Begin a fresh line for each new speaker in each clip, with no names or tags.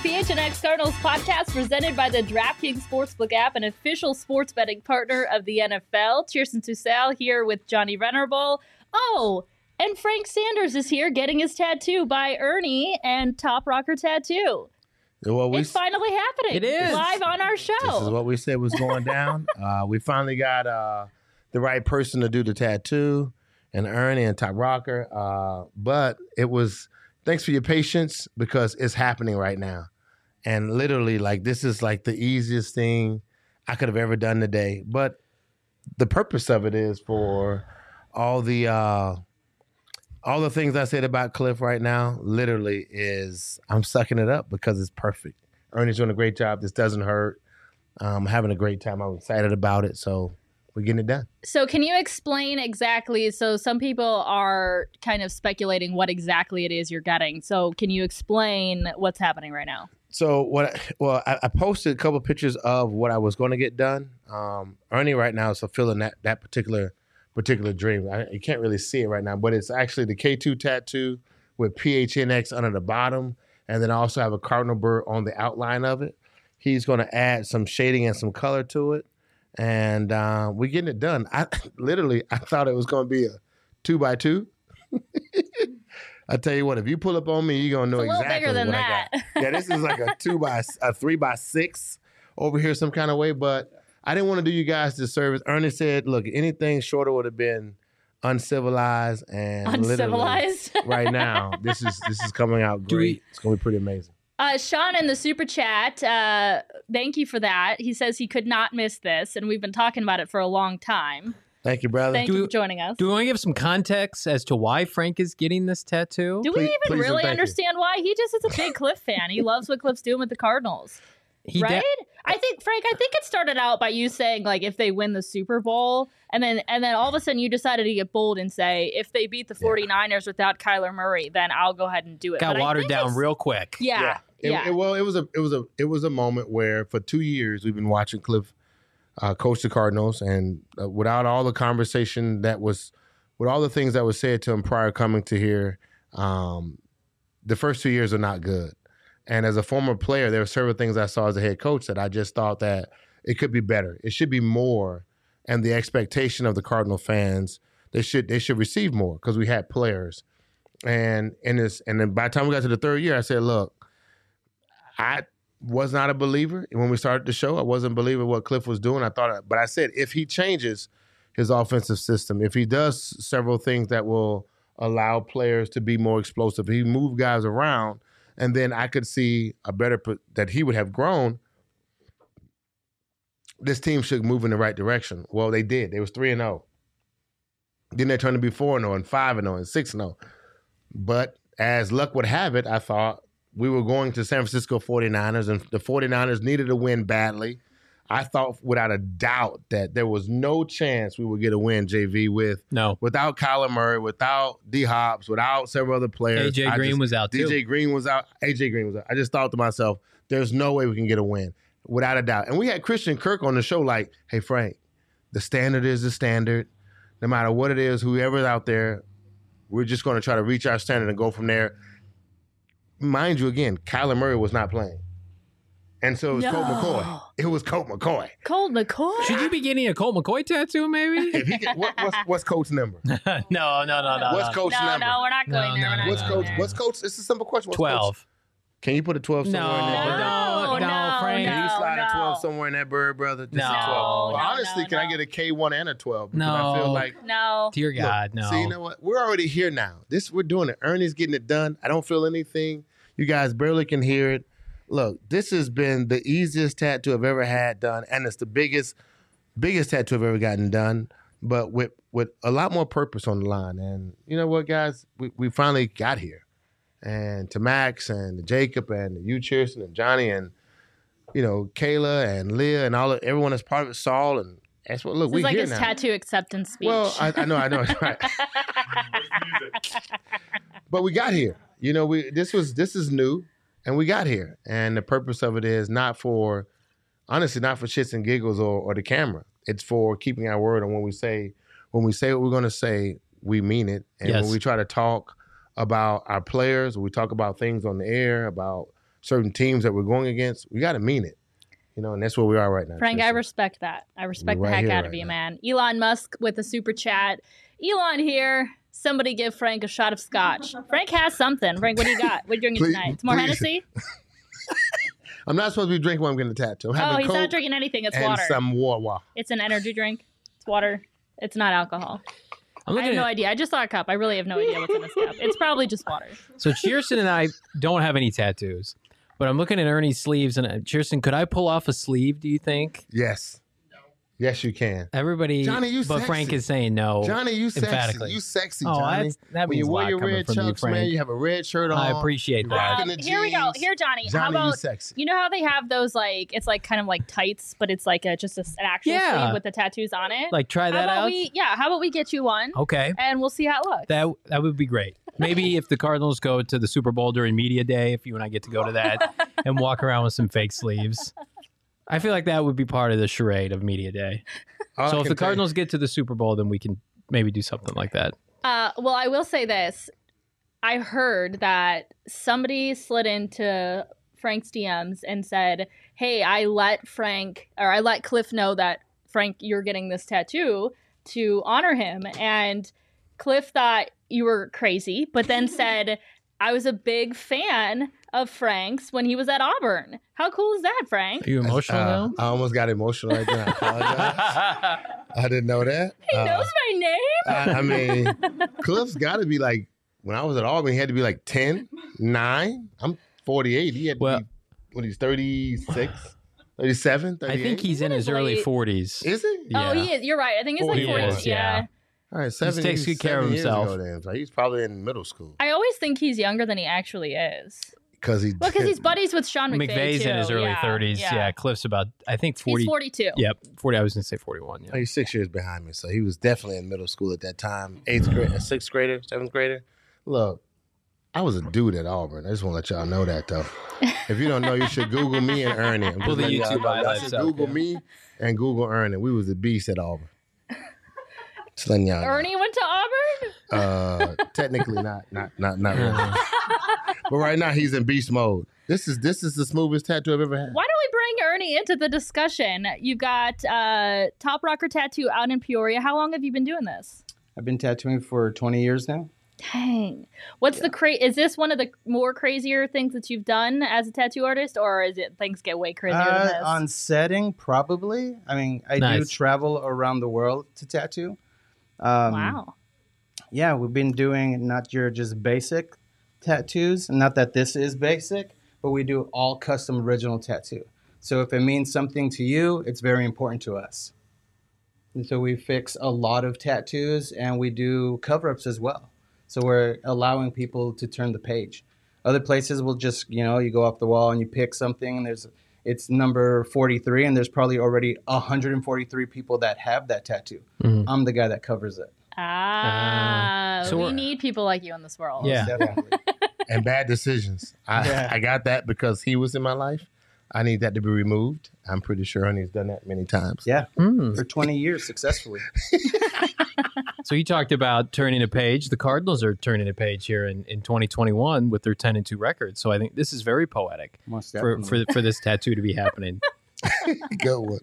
PHNX Cardinals podcast presented by the DraftKings Sportsbook app, an official sports betting partner of the NFL. Cheerson Tussell here with Johnny Venerable. Oh, and Frank Sanders is here getting his tattoo by Ernie and Top Rocker Tattoo. It's finally happening.
It is.
Live on our show.
This is what we said was going down. We finally got the right person to do the tattoo, and Ernie and Top Rocker. But it was, thanks for your patience, because it's happening right now. And literally, like, this is like the easiest thing I could have ever done today. But the purpose of it is for all the things I said about Cliff right now, literally is I'm sucking it up because it's perfect. Ernie's doing a great job. This doesn't hurt. I'm having a great time. I'm excited about it. So we're getting it done.
So can you explain exactly, so some people are kind of speculating what exactly it is you're getting. So can you explain what's happening right now?
So I posted a couple pictures of what I was going to get done. Ernie right now is fulfilling that particular dream. You can't really see it right now, but it's actually the K2 tattoo with PHNX under the bottom, and then I also have a cardinal bird on the outline of it. He's going to add some shading and some color to it, and we're getting it done. I thought it was going to be a 2x2. I tell you what, if you pull up on me, you're gonna know exactly what I got. Yeah, this is like a 3x6 over here some kind of way, but I didn't want to do you guys this service. Ernie said, look, anything shorter would have been uncivilized, and
uncivilized.
Right now, this is coming out great. It's gonna be pretty amazing.
Sean in the super chat, thank you for that. He says he could not miss this, and we've been talking about it for a long time.
Thank you, brother.
Thank you for joining us.
Do we want to give some context as to why Frank is getting this tattoo?
Do we even really understand why? He just is a big Cliff fan. He loves what Cliff's doing with the Cardinals. Right? I think it started out by you saying, like, if they win the Super Bowl, and then all of a sudden you decided to get bold and say, if they beat the 49ers without Kyler Murray, then I'll go ahead and do it.
Got watered down real quick.
Yeah.
It was a moment where for 2 years we've been watching Cliff coach the Cardinals, and without all the conversation with all the things that was said to him prior coming to here, the first 2 years are not good. And as a former player, there were several things I saw as a head coach that I just thought that it could be better. It should be more, and the expectation of the Cardinal fans, they should receive more because we had players. And then by the time we got to the third year, I said, look, I was not a believer when we started the show. I wasn't a believer what Cliff was doing. But I said, if he changes his offensive system, if he does several things that will allow players to be more explosive, if he move guys around, and then I could see that he would have grown, this team should move in the right direction. Well, they did. They was 3-0. Then they turned to be 4-0 and 5-0 and 6-0. But as luck would have it, I thought we were going to San Francisco 49ers, and the 49ers needed a win badly. I thought without a doubt that there was no chance we would get a win, JV, without Kyler Murray, without D-Hops, without several other players.
AJ Green was out, too.
AJ Green was out. I just thought to myself, there's no way we can get a win, without a doubt. And we had Christian Kirk on the show like, hey, Frank, the standard is the standard. No matter what it is, whoever's out there, we're just going to try to reach our standard and go from there. Mind you, again, Kyler Murray was not playing. And so it was Colt McCoy. It was Colt McCoy.
Colt McCoy?
Should you be getting a Colt McCoy tattoo, maybe?
If he what's Colt's number?
No.
What's Colt's number?
No, we're not going there.
What's Colt's? It's a simple question. What's
12.
Coach? Can you put a 12 somewhere in that bird?
No, Frank.
Can you slide a 12 somewhere in that bird, brother? Just a 12. Well, honestly, can I get a K1 and a 12? Because I feel like...
No.
Dear God, no.
See, you know what? We're already here now. We're doing it. Ernie's getting it done. I don't feel anything. You guys barely can hear it. Look, this has been the easiest tattoo I've ever had done, and it's the biggest tattoo I've ever gotten done, but with a lot more purpose on the line. And you know what, guys? We finally got here. And to Max and to Jacob and to you, Cheerson, and Johnny, and you know, Kayla and Leah and everyone that's part of it, Saul, and that's what. Look, we're
like
here
his
now.
Tattoo acceptance speech.
Well, I know, right. But we got here. You know, this is new, and we got here. And the purpose of it is not for shits and giggles or the camera. It's for keeping our word. And when we say what we're going to say, we mean it. And when we try to talk about our players, we talk about things on the air, about certain teams that we're going against, we got to mean it. And that's where we are right now.
Frank, I
Tristan.
respect that. I respect
We're
the
right
heck
here
out of
right
you,
now.
man. Elon Musk with a super chat. Elon here. Somebody give Frank a shot of scotch. Frank has something. Frank, what do you got? What are you drinking
Please-
tonight? It's more
please.
Hennessy?
I'm not supposed to be drinking when I'm getting a tattoo. I'm
Oh,
having
he's
Coke
not drinking anything. It's
and
water.
some water.
It's an energy drink. It's water. It's not alcohol.
I'm
I
looking
have no
at,
idea. I just saw a cup. I really have no idea what's in this cup. It's probably just water.
so Cheerson and I don't have any tattoos, but I'm looking at Ernie's sleeves, and Cheerson, could I pull off a sleeve? Do you think?
Yes. Yes, you can.
Everybody,
Johnny, you
but
sexy.
Frank is saying no.
Johnny, you sexy.
emphatically.
You sexy,
Oh,
Johnny.
that
When
means
you
a
wear
lot
your
coming
red
from you,
chucks, man,
Frank.
you have a red shirt on.
I appreciate that.
Rocking the
Here we go.
jeans.
Here, Johnny. How
Johnny, you
about
sexy.
you know how they have those it's like kind of like tights, but it's like an actual
Yeah.
sleeve with the tattoos on it.
Like, try that out.
How about we get you one
Okay.
and we'll see how it looks.
That would be great. Maybe if the Cardinals go to the Super Bowl during media day, if you and I get to go to that and walk around with some fake sleeves. I feel like that would be part of the charade of media day.
All
So
I
if
can
the
tell you-
Cardinals get to the Super Bowl, then we can maybe do something like that.
Well, I will say this. I heard that somebody slid into Frank's DMs and said, hey, I let Cliff know that, Frank, you're getting this tattoo to honor him. And Cliff thought you were crazy, but then said, I was a big fan of Frank's when he was at Auburn. How cool is that, Frank?
Are you emotional now?
I almost got emotional right there. I apologize. I didn't know that.
He knows my name.
I mean, Cliff's got to be like, when I was at Auburn, he had to be like 10, 9. I'm 48. He had to
Well-
be, what, he's 36, 37, 38?
I think he's in his early
late.
40s.
Is he?
Yeah.
Oh, he is. You're right. I think he's like
40
40.
is,
Yeah.
All right, 7
takes good care of
7 years
himself.
ago then. So he's probably in middle school.
I always think he's younger than he actually is.
Because
Well, because he's buddies with Sean McVay,
McVay's
too.
in his early
Yeah,
30s. Yeah. Cliff's about, I think, 40.
He's 42.
Yep, 40. I was going to say 41. Yeah.
He's 6 years behind me, so he was definitely in middle school at that time. 8th grade, 6th grader, 7th grader. Look, I was a dude at Auburn. I just want to let y'all know that, though. If you don't know, you should Google me and Ernie. I'm
Pull
just
the
letting y'all
YouTube
know. Y'all
highlights
should
up,
Google
yeah.
me and Google Ernie. We was the beast at Auburn. Just letting y'all know.
Ernie went to Auburn?
Technically not really. But right now he's in beast mode. This is the smoothest tattoo I've ever had.
Why don't we bring Ernie into the discussion? You've got Top Rocker Tattoo out in Peoria. How long have you been doing this?
I've been tattooing for 20 years now.
Dang. What's the is this one of the more crazier things that you've done as a tattoo artist, or is it things get way crazier than this?
On setting, probably. I mean, I do
Nice.
travel around the world to tattoo.
Wow.
Yeah, we've been doing not your just basic tattoos. Not that this is basic, but we do all custom original tattoo. So if it means something to you, it's very important to us. And so we fix a lot of tattoos and we do cover-ups as well. So we're allowing people to turn the page. Other places will just, you go off the wall and you pick something and it's number 43 and there's probably already 143 people that have that tattoo.
Mhm.
I'm the guy that covers it.
So
We
we're-
need people like you in this world.
Yeah.
Definitely.
And bad decisions. I got that because he was in my life. I need that to be removed. I'm pretty sure Ernie's done that many times.
Yeah,
Hmm.
for 20 years successfully.
So you talked about turning a page. The Cardinals are turning a page here in 2021 with their 10-2 record. So I think this is very poetic
Most
for
definitely.
for this tattoo to be happening.
Good one.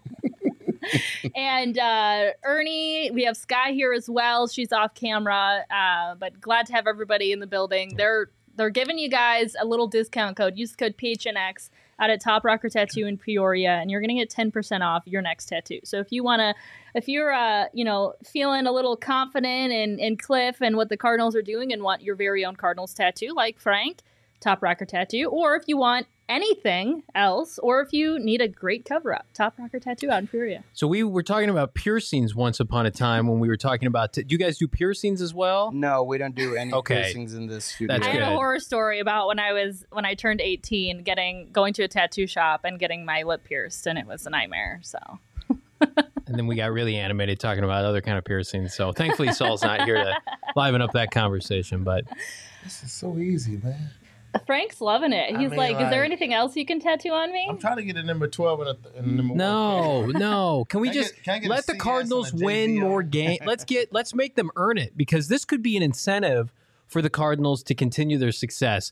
And Ernie, we have Sky here as well. She's off camera, but glad to have everybody in the building. They're giving you guys a little discount code. Use code PHNX out at Top Rocker Tattoo in Peoria, and you're gonna get 10% off your next tattoo. So if you're feeling a little confident in Cliff and what the Cardinals are doing, and want your very own Cardinals tattoo, like Frank, Top Rocker Tattoo, or if you want anything else, or if you need a great cover-up, Top Rocker Tattoo out in Peoria.
So we were talking about piercings once upon a time when we were talking about. Do you guys do piercings as well?
No, we don't do any
Okay.
piercings in this studio.
That's
I had
good.
a horror story about when I turned 18, going to a tattoo shop and getting my lip pierced, and it was a nightmare. So
And then we got really animated talking about other kind of piercings. So thankfully Saul's not here to liven up that conversation. But
This is so easy, man.
Frank's loving it.
I
He's
mean,
like, "Is there
like-
anything else you can tattoo on me?"
I'm trying to get a number 12 and a number 1.
no. Can we
Can I
just
get- can I get a
let the
CS
Cardinals
and a
win
JV
more
on it?
game? Let's make them earn it, because this could be an incentive for the Cardinals to continue their success.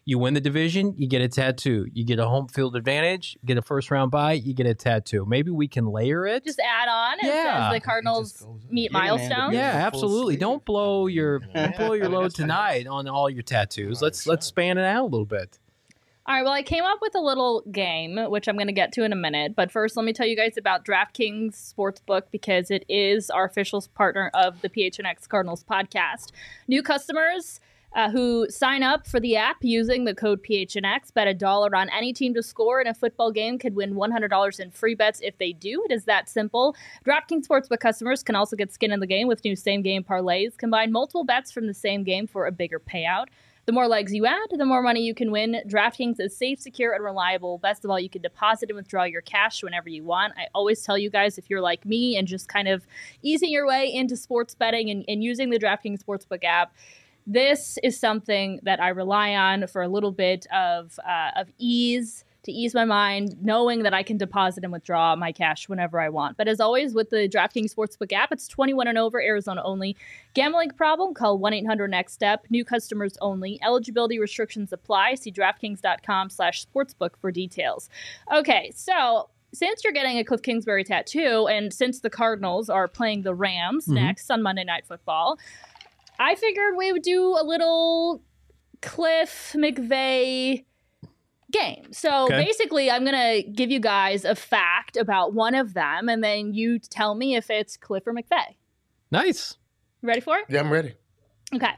You win the division, you get a tattoo. You get a home field advantage, get a first round bye, you get a tattoo. Maybe we can layer it.
Just add on as the Cardinals meet milestones.
Yeah, absolutely. Don't blow your load tonight on all your tattoos. Let's span it out a little bit.
All right, well, I came up with a little game, which I'm going to get to in a minute. But first, let me tell you guys about DraftKings Sportsbook because it is our official partner of the PHNX Cardinals podcast. New customers who sign up for the app using the code PHNX, bet $1 on any team to score in a football game, could win $100 in free bets if they do. It is that simple. DraftKings Sportsbook customers can also get skin in the game with new same-game parlays. Combine multiple bets from the same game for a bigger payout. The more legs you add, the more money you can win. DraftKings is safe, secure, and reliable. Best of all, you can deposit and withdraw your cash whenever you want. I always tell you guys, if you're like me and just kind of easing your way into sports betting and using the DraftKings Sportsbook app, this is something that I rely on for a little bit of ease, to ease my mind, knowing that I can deposit and withdraw my cash whenever I want. But as always, with the DraftKings Sportsbook app, it's 21 and over, Arizona only. Gambling problem? Call 1-800-NEXT-STEP. New customers only. Eligibility restrictions apply. See DraftKings.com/sportsbook for details. Okay, so since you're getting a Cliff Kingsbury tattoo, and since the Cardinals are playing the Rams next on Monday Night Football, I figured we would do a little Cliff McVay game. So basically, I'm going to give you guys a fact about one of them, and then you tell me if it's Cliff or McVay.
Nice.
You ready for it?
Yeah, I'm ready.
Okay.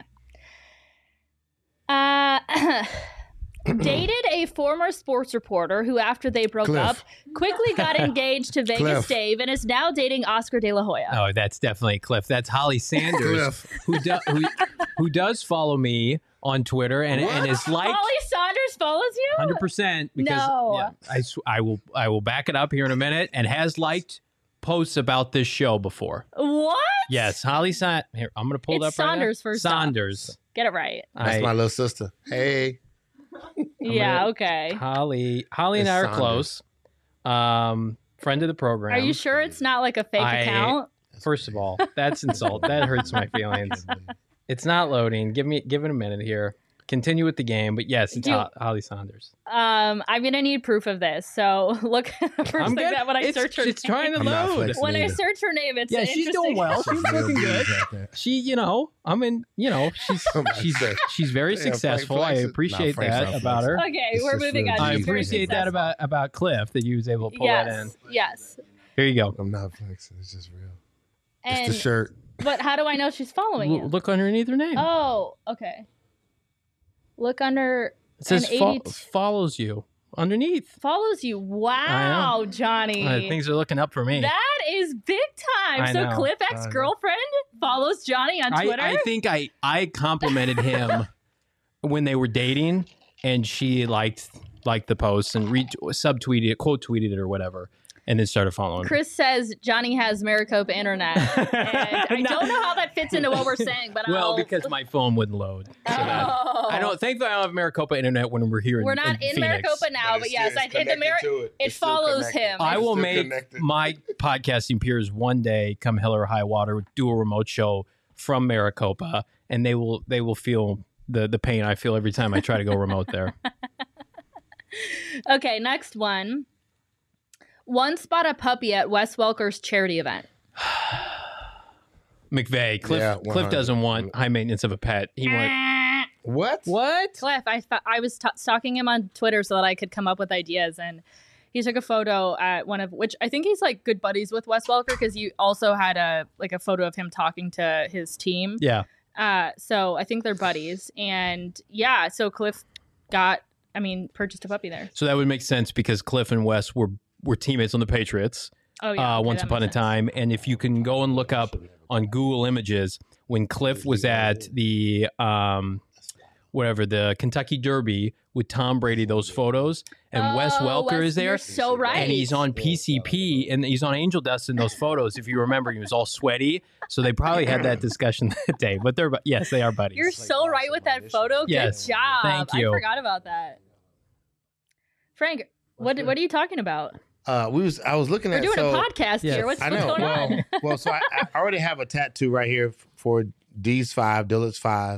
Dated a former sports reporter who, after they broke
Cliff.
up, quickly got engaged to Vegas
Cliff.
Dave and is now dating Oscar De La Hoya.
Oh, that's definitely Cliff. That's Holly Sanders, who does follow me on Twitter and is like
Holly Saunders follows you?
100% because
No.
I will back it up here in a minute and has liked posts about this show before.
What?
Yes, Holly Saunders. Here, I'm going to pull it up
It's Saunders
right now.
first off.
Saunders.
Get it right.
That's my little sister. Hey.
Yeah, okay.
Holly and
It's
I are
Saunders.
close. Friend of the program.
Are you sure it's not like a fake account?
First of all, that's insult. That hurts my feelings. It's not loading. Give it a minute here. Continue with the game, but yes, it's Holly Saunders.
I'm gonna need proof of this. So look, first thing that when I search her name,
It's trying to
I'm not
load.
flexing
when I
either.
search her name, it's
She's doing well. She's looking good. She, she's very
Yeah,
successful.
Frank
I
flexes.
appreciate
Frank's
that
not
about her.
Okay,
It's
we're
just
moving on.
really
I
She's very
appreciate that
successful.
about Cliff that you was able to pull that in.
Yes.
Here you go.
I'm not flexing. It's just real.
And,
It's the shirt.
But how do I know she's following you?
Look underneath her name.
Oh, okay. Look under.
It says
an 80
follows you underneath.
follows you. Wow, Johnny.
Things are looking up for me.
That is big time.
I
So
know.
Cliff ex-girlfriend follows Johnny on Twitter.
I think I complimented him when they were dating, and she liked the post and subtweeted it, quote tweeted it or whatever, and then started following me.
Chris says Johnny has Maricopa internet. And I don't know how that fits into what we're saying, but
because my phone wouldn't load. So I don't. Thankfully, I don't have Maricopa internet when we're here.
We're not in
Phoenix.
Maricopa now, but yes, it follows him.
I will make my podcasting peers one day, come hell or high water, do a remote show from Maricopa, and they will feel the pain I feel every time I try to go remote there.
Okay, next one. Once bought a puppy at Wes Welker's charity event.
McVay, Cliff
Yeah,
Cliff doesn't want high maintenance of a pet. He wants
What?
Cliff, I was stalking him on Twitter so that I could come up with ideas, and he took a photo at one of which I think he's like good buddies with Wes Welker because he also had a photo of him talking to his team.
Yeah.
So I think they're buddies, and so Cliff purchased a puppy there.
So that would make sense because Cliff and Wes were teammates on the Patriots.
Oh yeah.
Once upon a time, and if you can go and look up on Google Images when Cliff was at the the Kentucky Derby with Tom Brady, those photos, and Wes Welker is there.
You're so right.
And he's on PCP and he's on Angel Dust in those photos. If you remember, he was all sweaty. So they probably had that discussion that day. But they are buddies.
You're so right with that photo.
Yes.
Good job.
Thank you.
I forgot about that. Frank, what are you talking about?
I was looking
We're
at.
doing a podcast here. What's
I know.
going on?
So I already have a tattoo right here for D's 5, Dillard's 5.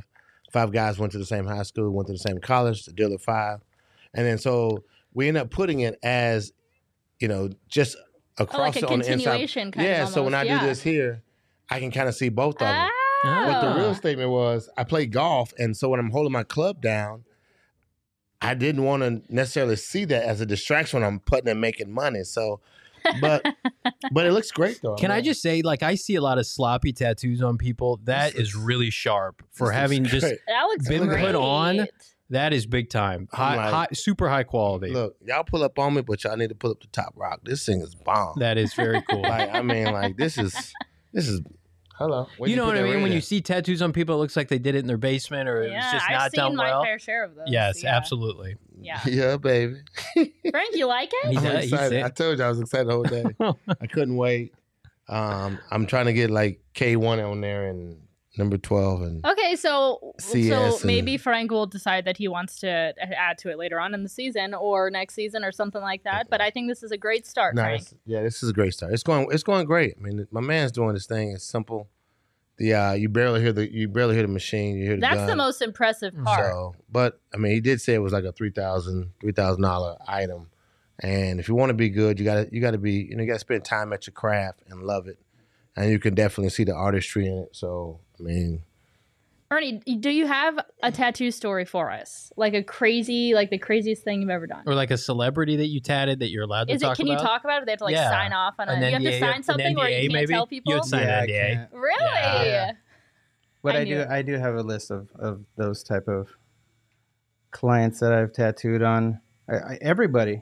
5 guys went to the same high school, went to the same college, the deal of 5. And then so we end up putting it as, just across
like a
on the inside.
continuation kind of
Yeah, so when I
almost,
do this here, I can kind of see both of them.
Ah.
But the real statement was I play golf, and so when I'm holding my club down, I didn't want to necessarily see that as a distraction when I'm putting and making money. So, but it looks great though.
Can I just say, like, I see a lot of sloppy tattoos on people. That is really sharp for having just
great.
That looks
been
great.
put on. That is big time. High, super high quality.
Look, y'all pull up on me, but y'all need to pull up the top rock. This thing is bomb.
That is very cool.
This is. Hello.
You know what I mean? When you see tattoos on people, it looks like they did it in their basement or it was just not
I've
done
seen
well.
my fair share of those.
Yes,
yeah.
absolutely.
Yeah.
Yeah, baby.
Frank, you like it?
He's
I'm
he's
excited.
it.
I told you I was excited the whole day. I couldn't wait. I'm trying to get like K1 on there and number 12 and
Okay, so
CS
maybe
and-
Frank will decide that he wants to add to it later on in the season or next season or something like that. But I think this is a great start, Frank.
this is a great start. It's going great. I mean, my man's doing this thing. It's simple. You barely hear the machine. You hear the
That's
gun.
the most impressive part.
So, but I mean, he did say it was like a $3,000 item. And if you want to be good, you gotta be, you gotta spend time at your craft and love it. And you can definitely see the artistry in it. So, I mean,
Ernie, do you have a tattoo story for us? Like the craziest thing you've ever done?
Or like a celebrity that you tatted that you're allowed to talk
Can
about?
you talk about it? They have to
Yeah.
sign off on it.
An
You have to
NDA,
sign something
an
where you
NDA
can't
maybe?
tell people?
You had signed
Yeah, I
NDA.
can't.
Really?
Yeah.
But
I
I
knew.
do have a list of those type of clients that I've tattooed on. Everybody.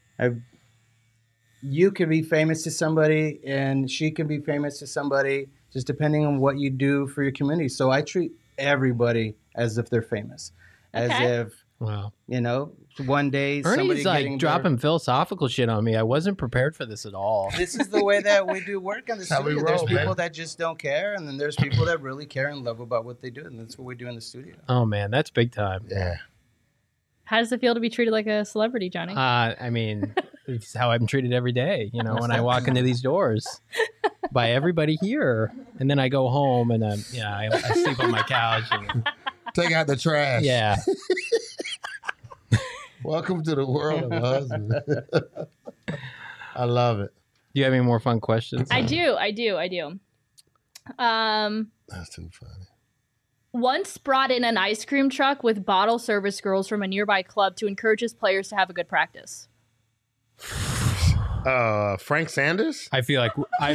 You could be famous to somebody, and she can be famous to somebody, just depending on what you do for your community. So I treat everybody as if they're famous, as
Okay.
if
Wow.
one day somebody
Ernie's like
getting
dropping philosophical shit on me. I wasn't prepared for this at all.
This is the way that we do work in the
How we
studio.
roll,
There's people
man.
that just don't care, and then there's people that really care and love about what they do, and that's what we do in the studio.
Oh man, that's big time.
yeah.
How does it feel to be treated like a celebrity, Johnny?
I mean, it's how I'm treated every day. When I walk into these doors by everybody here, and then I go home and I sleep on my couch. And,
Take out the trash.
yeah,
Welcome to the world of a husband. I love it.
do you have any more fun questions?
I do.
That's too funny.
Once brought in an ice cream truck with bottle service girls from a nearby club to encourage his players to have a good practice.
Frank Sanders?
I feel like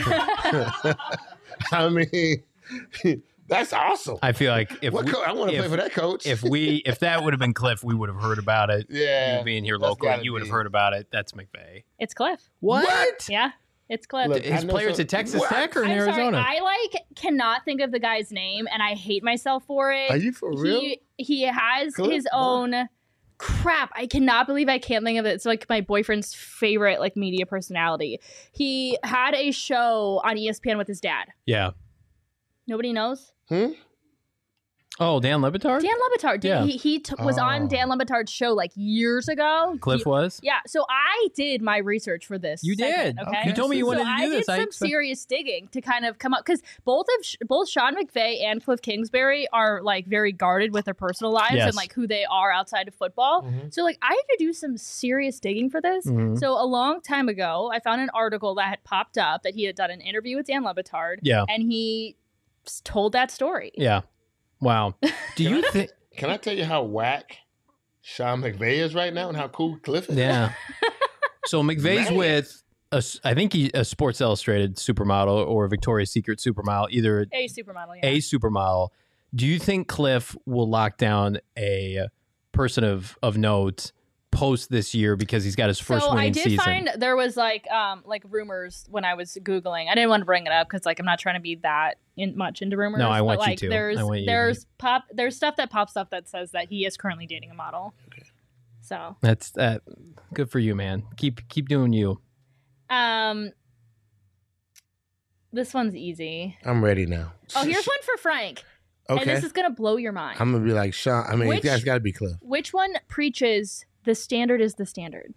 I mean, that's awesome.
I feel like
I want to play for that coach.
if that would have been Cliff, we would have heard about it.
Yeah,
You being here
that's
local,
gotta
you would have
be.
heard about it. That's McVay.
It's Cliff.
What?
Yeah, it's Cliff.
Look,
His
I know
players
some-
at Texas
What?
Tech or in
I'm
Arizona?
sorry, I cannot think of the guy's name, and I hate myself for it.
Are you for real?
He has
Cliff?
his own crap. I cannot believe I can't think of it. It's like my boyfriend's favorite media personality. He had a show on ESPN with his dad.
Yeah.
Nobody knows.
Oh, Dan Lebitard?
Dan Lebitard.
Yeah.
He was on
Oh.
Dan Lebitard's show years ago.
Cliff was?
Yeah, so I did my research for this.
You
segment,
did.
Okay.
You told me you wanted
so
to do this.
I did some serious digging to kind of come up because both Sean McVay and Cliff Kingsbury are very guarded with their personal lives
Yes.
and who they are outside of football.
Mm-hmm.
So I had to do some serious digging for this.
Mhm.
So a long time ago, I found an article that had popped up that he had done an interview with Dan Lebitard.
Yeah.
And he told that story.
Yeah. Wow. Do you think?
Can I tell you how whack Sean McVay is right now and how cool Cliff is?
Yeah. So McVay's
Man.
with I think he's a Sports Illustrated supermodel or a Victoria's Secret supermodel, either
A supermodel, yeah.
a supermodel. Do you think Cliff will lock down a person of note post this year because he's got his first
so I
winning
did
season?
find there was rumors when I was Googling. I didn't want to bring it up because I'm not trying to be that much into rumors.
No, I want
but,
you to.
There's
I want you to
there's stuff that pops up that says that he is currently dating a model.
Okay.
So
That's good for you, man. Keep doing you.
this one's easy.
I'm ready now.
Oh, here's one for Frank.
Okay.
And this is gonna blow your mind.
I'm going to be like Sean. I mean,
Which-
you guys got to be Cliff.
Which one preaches the standard is the standard?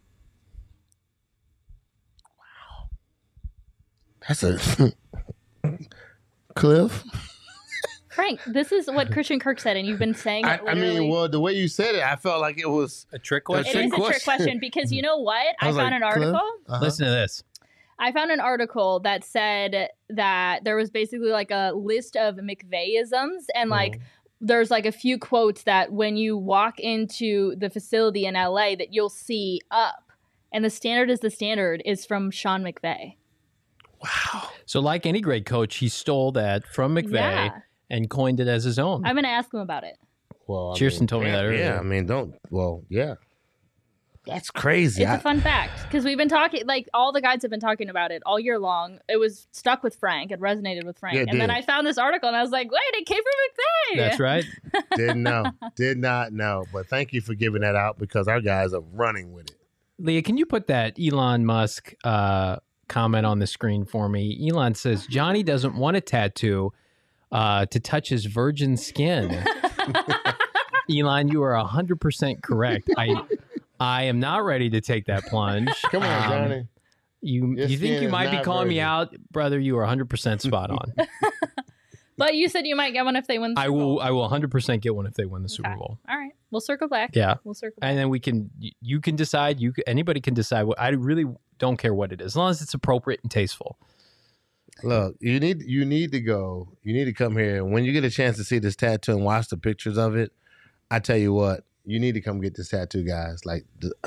That's a Cliff.
Frank, Frank, this is what Christian Kirk said, and you've been saying it
I
literally.
mean, well, the way you said it, I felt like it was
A trick
A
it
question?
is a trick
question.
question because you know what? I
was
found
like,
an article.
Cliff? Uh-huh.
Listen to this.
I found an article that said that there was basically like a list of McVay-isms and like there's like a few quotes that when you walk into the facility in LA that you'll see up. And the standard is the standard is from Sean McVay.
Wow.
So, like any great coach, he stole that from McVay
Yeah.
and coined it as his own.
I'm going to ask him about it.
Well, I
Cheerson told me that earlier.
Yeah, I mean, yeah. That's crazy.
It's a fun fact because we've been talking, like all the guys have been talking about it all year long. It was stuck with Frank. It resonated with Frank.
Yeah, it
and then
did.
I found this article and I was like, wait, it came from McVay.
That's right.
Didn't know. Did not know. But thank you for giving that out because our guys are running with it.
Leah, can you put that Elon Musk comment on the screen for me? Elon says Johnny doesn't want a tattoo to touch his virgin skin. Elon, you are 100% correct. I am not ready to take that plunge.
Come on, Johnny.
You
Your
think
skin
you
is
might be
not
calling me
virgin.
out, brother? You are 100% spot on.
But you said you might get one if they win the
I
Super Bowl.
will 100% get one if they win the Super
Okay.
Bowl.
All right. We'll circle back.
Yeah.
We'll circle back.
And then you can decide. Anybody can decide. I really don't care what it is, as long as it's appropriate and tasteful.
Look, you need to go. You need to come here. And when you get a chance to see this tattoo and watch the pictures of it, I tell you what, you need to come get this tattoo, guys. Like,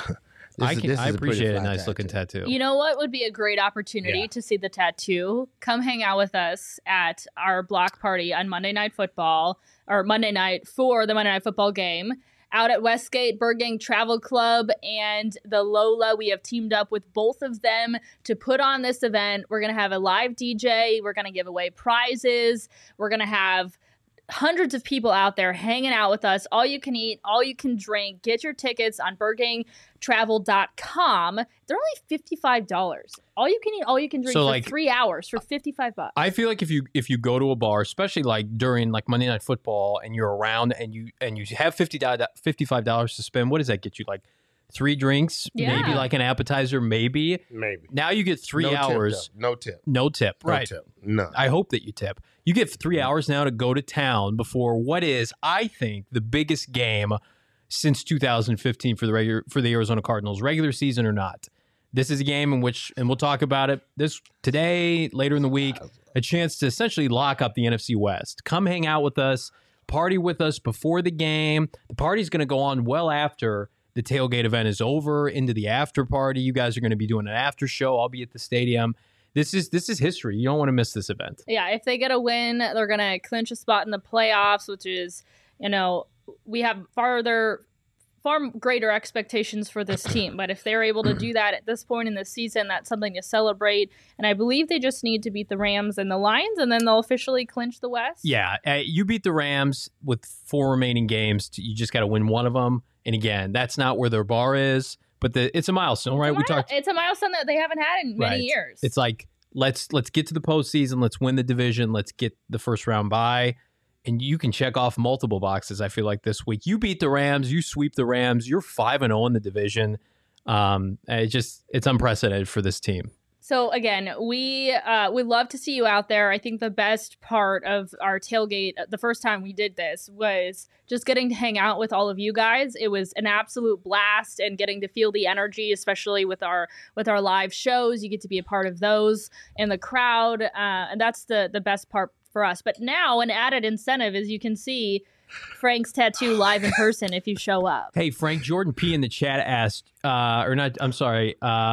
I
this is a pretty
appreciate a
fly
nice looking tattoo.
You know what would be a great opportunity
Yeah.
to see the tattoo? Come hang out with us at our block party on Monday Night Football, or Monday night for the Monday Night Football game. Out at Westgate Burgang Travel Club and the Lola. We have teamed up with both of them to put on this event. We're going to have a live DJ. We're going to give away prizes. We're going to have hundreds of people out there hanging out with us. All you can eat, all you can drink. Get your tickets on burgangtravel.com. They're only $55. All you can eat, all you can drink
So,
for
like,
3 hours for $55.
I feel like if you go to a bar, especially like during like Monday Night Football, and you're around and you have $55 to spend, what does that get you? Like 3 drinks,
Yeah.
maybe like an appetizer, maybe.
Maybe.
Now you get 3
No tip,
hours,
though. No tip.
no tip,
No
right?
tip. None.
I hope that you tip. You get 3 hours now to go to town before what is, I think, the biggest game since 2015 for the Arizona Cardinals, regular season or not. This is a game in which, and we'll talk about it today, later in the week, a chance to essentially lock up the NFC West. Come hang out with us, party with us before the game. The party's going to go on well after the tailgate event is over, into the after party. You guys are going to be doing an after show. I'll be at the stadium. This is history. You don't want to miss this event.
Yeah, if they get a win, they're going to clinch a spot in the playoffs, which is, we have far greater expectations for this team. But if they're able to do that at this point in the season, that's something to celebrate. And I believe they just need to beat the Rams and the Lions, and then they'll officially clinch the West.
Yeah, you beat the Rams with 4 remaining games. You just got to win one of them. And again, that's not where their bar is, but it's a milestone, right?
It's a milestone that they haven't had in many years.
It's like let's get to the postseason. Let's win the division. Let's get the first round bye. And you can check off multiple boxes, I feel like, this week. You beat the Rams. You sweep the Rams. You're 5-0 in the division. It's unprecedented for this team.
So, again, we would love to see you out there. I think the best part of our tailgate, the first time we did this, was just getting to hang out with all of you guys. It was an absolute blast, and getting to feel the energy, especially with our live shows. You get to be a part of those in the crowd, and that's the best part for us. But now an added incentive is you can see Frank's tattoo live in person if you show up.
Hey, Frank, Jordan P. in the chat asked, somebody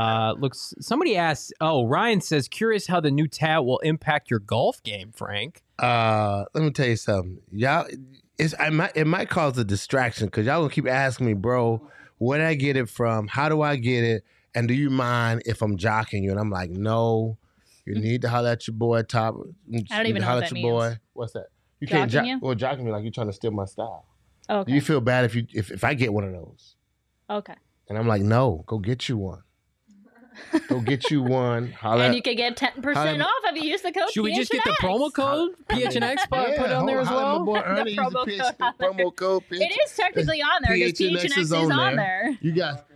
asked, Ryan says, curious how the new tat will impact your golf game, Frank.
Let me tell you something. Y'all, it might cause a distraction because y'all gonna keep asking me, bro, where did I get it from? How do I get it? And do you mind if I'm jocking you? And I'm like, no, you need to holler at your boy, Top.
I don't even know what that means.
What's that? You
Jocking
can't
you?
jocking me like you're trying to steal my style.
Okay.
Do you feel bad if I get one of those?
Okay.
And I'm like, no, go get you one. Go get you one. Holler
And
at-
you could get 10%
holla-
off if you use the code
Should we just get the
PHNX.
promo code PHNX? Put it on there as
holla at
well.
my boy Ernie. Use
promo
the
code on there.
promo code.
It is technically on there because PHNX is on there.
You got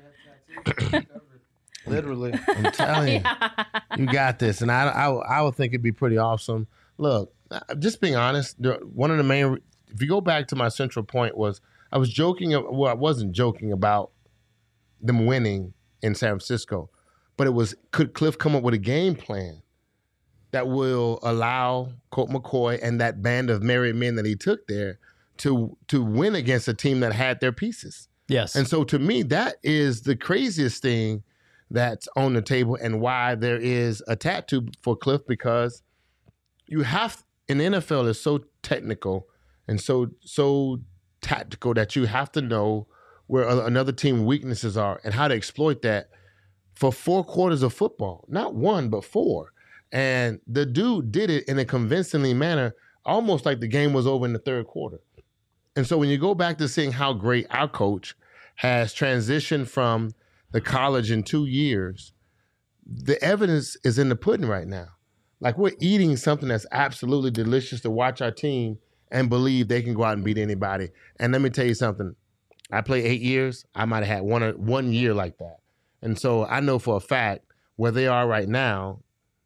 literally. I'm telling you, you got this, and I would think it'd be pretty awesome. Look, just being honest, one of the main, if you go back to my central point was I was joking. Well, I wasn't joking about them winning in San Francisco, but it was, could Cliff come up with a game plan that will allow Colt McCoy and that band of married men that he took there to win against a team that had their pieces?
Yes.
And so to me, that is the craziest thing that's on the table, and why there is a tattoo for Cliff, because you have, in the NFL is so technical and so tactical that you have to know where another team's weaknesses are and how to exploit that for 4 quarters of football. Not 1, but 4. And the dude did it in a convincingly manner, almost like the game was over in the 3rd quarter. And so when you go back to seeing how great our coach has transitioned from the college in 2 years, the evidence is in the pudding right now. Like, we're eating something that's absolutely delicious to watch our team and believe they can go out and beat anybody. And let me tell you something. I played 8 years. I might have had one year like that. And so I know for a fact where they are right now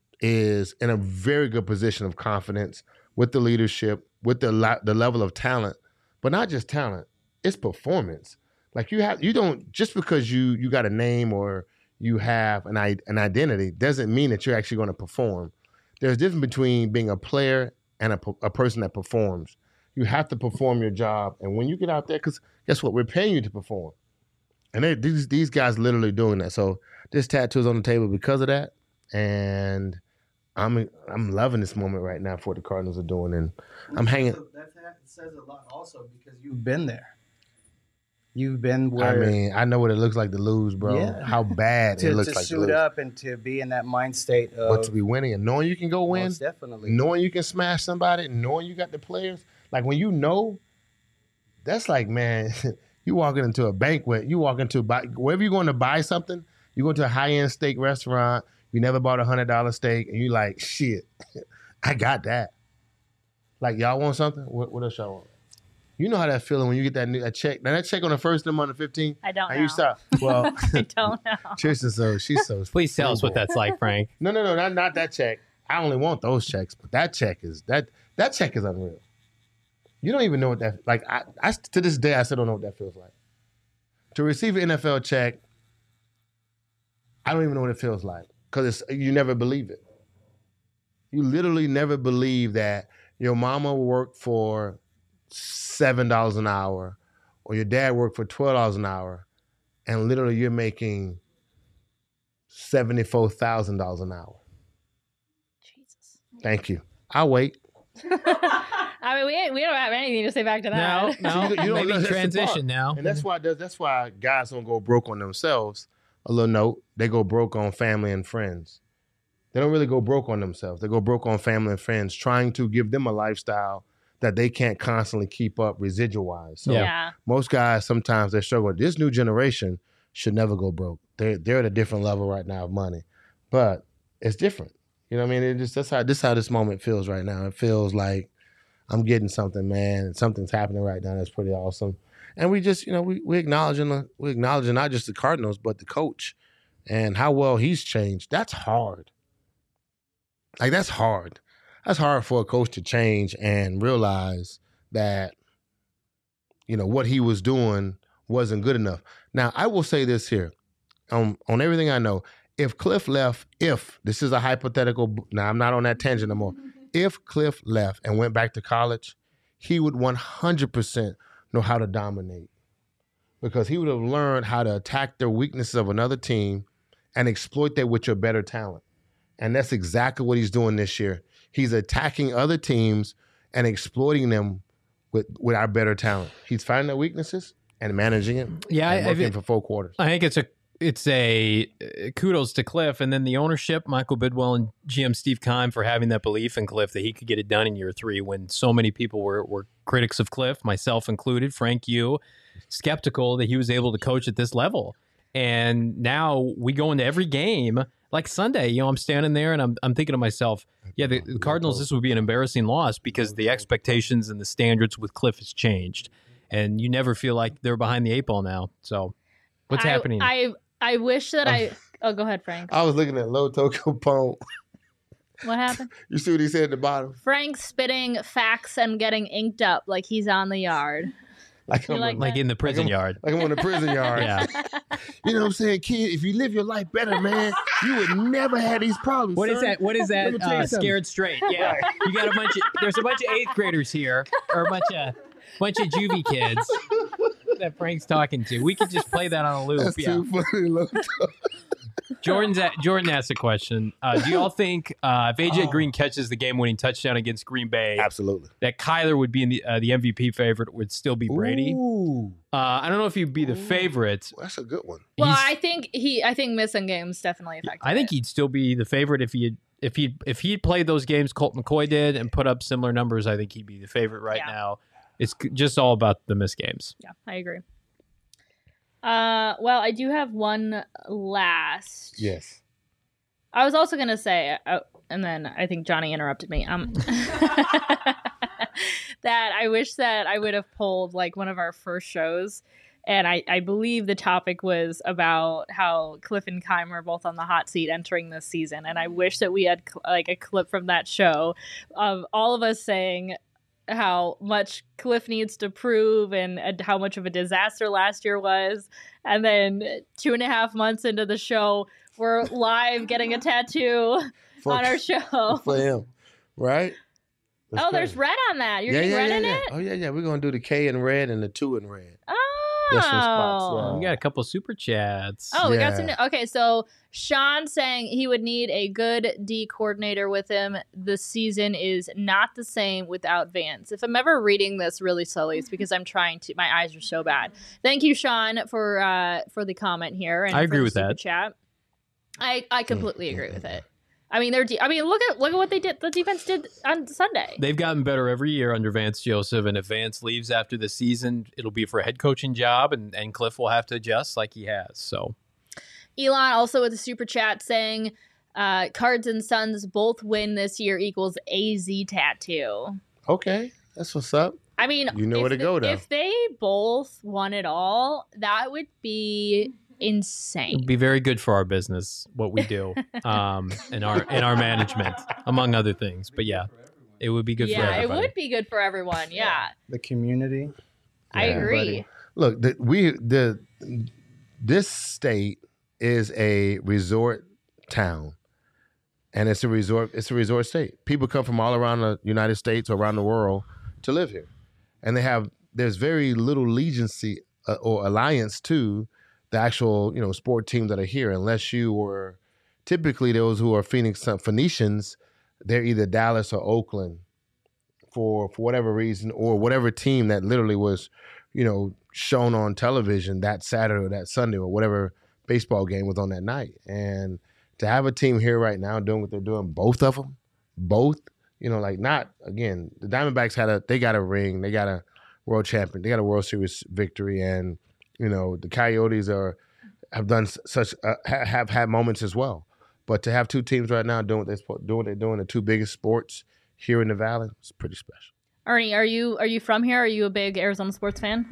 is in a very good position of confidence with the leadership, with the level of talent, but not just talent, it's performance. Like, you don't, just because you got a name or you have an identity doesn't mean that you're actually going to perform. There's a difference between being a player and a person that performs. You have to perform your job. And when you get out there, because guess what? We're paying you to perform. And these guys literally doing that. So this tattoo is on the table because of that. And I'm loving this moment right now for what the Cardinals are doing. And I'm hanging.
That says a lot also because you've been there. You've been where.
I mean, I know what it looks like to lose, bro. Yeah. How bad it looks like to lose.
To suit up and to be in that mind state of.
But to be winning and knowing you can go win.
Most definitely.
Knowing you can smash somebody, knowing you got the players. Like, when you know, that's like, man, you walking into a banquet, you walk into wherever you're going to buy something, you go to a high-end steak restaurant, you never bought a $100 steak, and you like, shit, I got that. Like, y'all want something? What else y'all want? You know how that feeling when you get that check. Now, that check on the first of the month, 15.
I don't know.
You stop. Well,
I don't know.
Tristan, she's so.
Please tell us what that's like, Frank.
No, not that check. I only want those checks, but that check is unreal. You don't even know what that, like, I to this day, I still don't know what that feels like. To receive an NFL check, I don't even know what it feels like, because you never believe it. You literally never believe that your mama worked for $7 an hour or your dad worked for $12 an hour, and literally you're making $74,000 an hour.
Jesus.
Thank you. I'll wait.
I mean, we don't have anything to say back to that.
No,
you don't know,
maybe transition now.
And that's why guys don't go broke on themselves. A little note, they go broke on family and friends. They don't really go broke on themselves. They go broke on family and friends, trying to give them a lifestyle that they can't constantly keep up residual-wise. So
Yeah.
most guys, sometimes they struggle. This new generation should never go broke. They're at a different level right now of money. But it's different. You know what I mean? That's how this moment feels right now. It feels like I'm getting something, man. Something's happening right now that's pretty awesome. And we just, we acknowledging not just the Cardinals, but the coach and how well he's changed. That's hard. Like, that's hard. That's hard for a coach to change and realize that, what he was doing wasn't good enough. Now, I will say this here. On everything I know, if Cliff left, this is a hypothetical, now I'm not on that tangent no more. If Cliff left and went back to college, he would 100% know how to dominate, because he would have learned how to attack the weaknesses of another team and exploit that with your better talent. And that's exactly what he's doing this year. He's attacking other teams and exploiting them with our better talent. He's finding their weaknesses and managing it.
Yeah,
and working for 4 quarters.
I think it's a kudos to Cliff, and then the ownership, Michael Bidwell and GM Steve Keim, for having that belief in Cliff that he could get it done in year 3 when so many people were critics of Cliff, myself included, Frank, you, skeptical that he was able to coach at this level. And now we go into every game like Sunday. I'm standing there and I'm thinking to myself, yeah, the Cardinals, this would be an embarrassing loss because the expectations and the standards with Cliff has changed, and you never feel like they're behind the 8 ball now. So what's happening?
I wish that oh, go ahead, Frank.
I was looking at Loto Capone.
What happened?
You see what he said at the bottom?
Frank spitting facts and getting inked up like he's on the yard.
Like
You
I'm,
like
Like in the prison yard.
like I'm on the prison yard.
Yeah.
You know what I'm saying, kid? If you live your life better, man, you would never have these problems.
What is
son.
that? What is
Let me tell you
that?
something.
Scared straight. Yeah. You got there's a bunch of 8th graders here, or a bunch of juvie kids that Frank's talking to. We could just play that on a loop.
That's
Yeah.
too funny. Look.
Jordan asked a question. Do y'all think if AJ Green catches the game-winning touchdown against Green Bay,
Absolutely.
that Kyler would be in the MVP favorite, would still be Brady?
Ooh,
I don't know if he'd be the favorite.
that's a good one.
Well,
He's-
I think missing games definitely affected.
I think
it.
he'd still be the favorite if he played those games Colt McCoy did and put up similar numbers. I think he'd be the favorite right
Yeah.
now. It's just all about the missed games.
Yeah, I agree. Well, I do have one last.
Yes.
I was also gonna say, and then I think Johnny interrupted me. That I wish that I would have pulled like one of our first shows, and I believe the topic was about how Cliff and Kym are both on the hot seat entering this season, and I wish that we had like a clip from that show of all of us saying how much Cliff needs to prove and how much of a disaster last year was, and then 2.5 months into the show, we're live getting a tattoo on our show.
For him, right? That's
Oh, there's
crazy.
red on that. You're getting red in it?
Oh, yeah. We're going to do the K in red and the 2 in red. There's some spots,
Oh.
We got a couple super chats.
Oh, we got
Yeah.
some. Okay, so Sean saying he would need a good D coordinator with him. The season is not the same without Vance. If I'm ever reading this really slowly, it's because I'm trying to. My eyes are so bad. Thank you, Sean, for the comment here. And
I
for
agree
the
with
super
that.
Chat. I completely agree with it. I mean, look at what they did. The defense did on Sunday.
They've gotten better every year under Vance Joseph, and if Vance leaves after the season, it'll be for a head coaching job, and Cliff will have to adjust like he has. So
Elon also with a super chat saying Cards and Suns both win this year equals AZ tattoo.
Okay. That's what's up.
I mean,
You know
if
where to go, though.
If they both won it all, that would be insane.
it'll be very good for our business, what we do, and our management, among other things. But yeah, it would be good for
Yeah, it
everybody.
would be good for everyone. Yeah,
The community.
I
Yeah.
agree.
Look, this state is a resort town, and it's a resort state. People come from all around the United States or around the world to live here, and there's very little allegiance or alliance to the actual sport teams that are here, unless you were typically those who are Phoenicians. They're either Dallas or Oakland for whatever reason, or whatever team that literally was shown on television that Saturday or that Sunday or whatever baseball game was on that night. And to have a team here right now doing what they're doing, both of them, not again, the Diamondbacks they got a ring, they got a world champion, they got a World Series victory, and the Coyotes have done have had moments as well. But to have two teams right now doing what they're doing, the two biggest sports here in the Valley, it's pretty special.
Ernie, are you from here? Are you a big Arizona sports fan?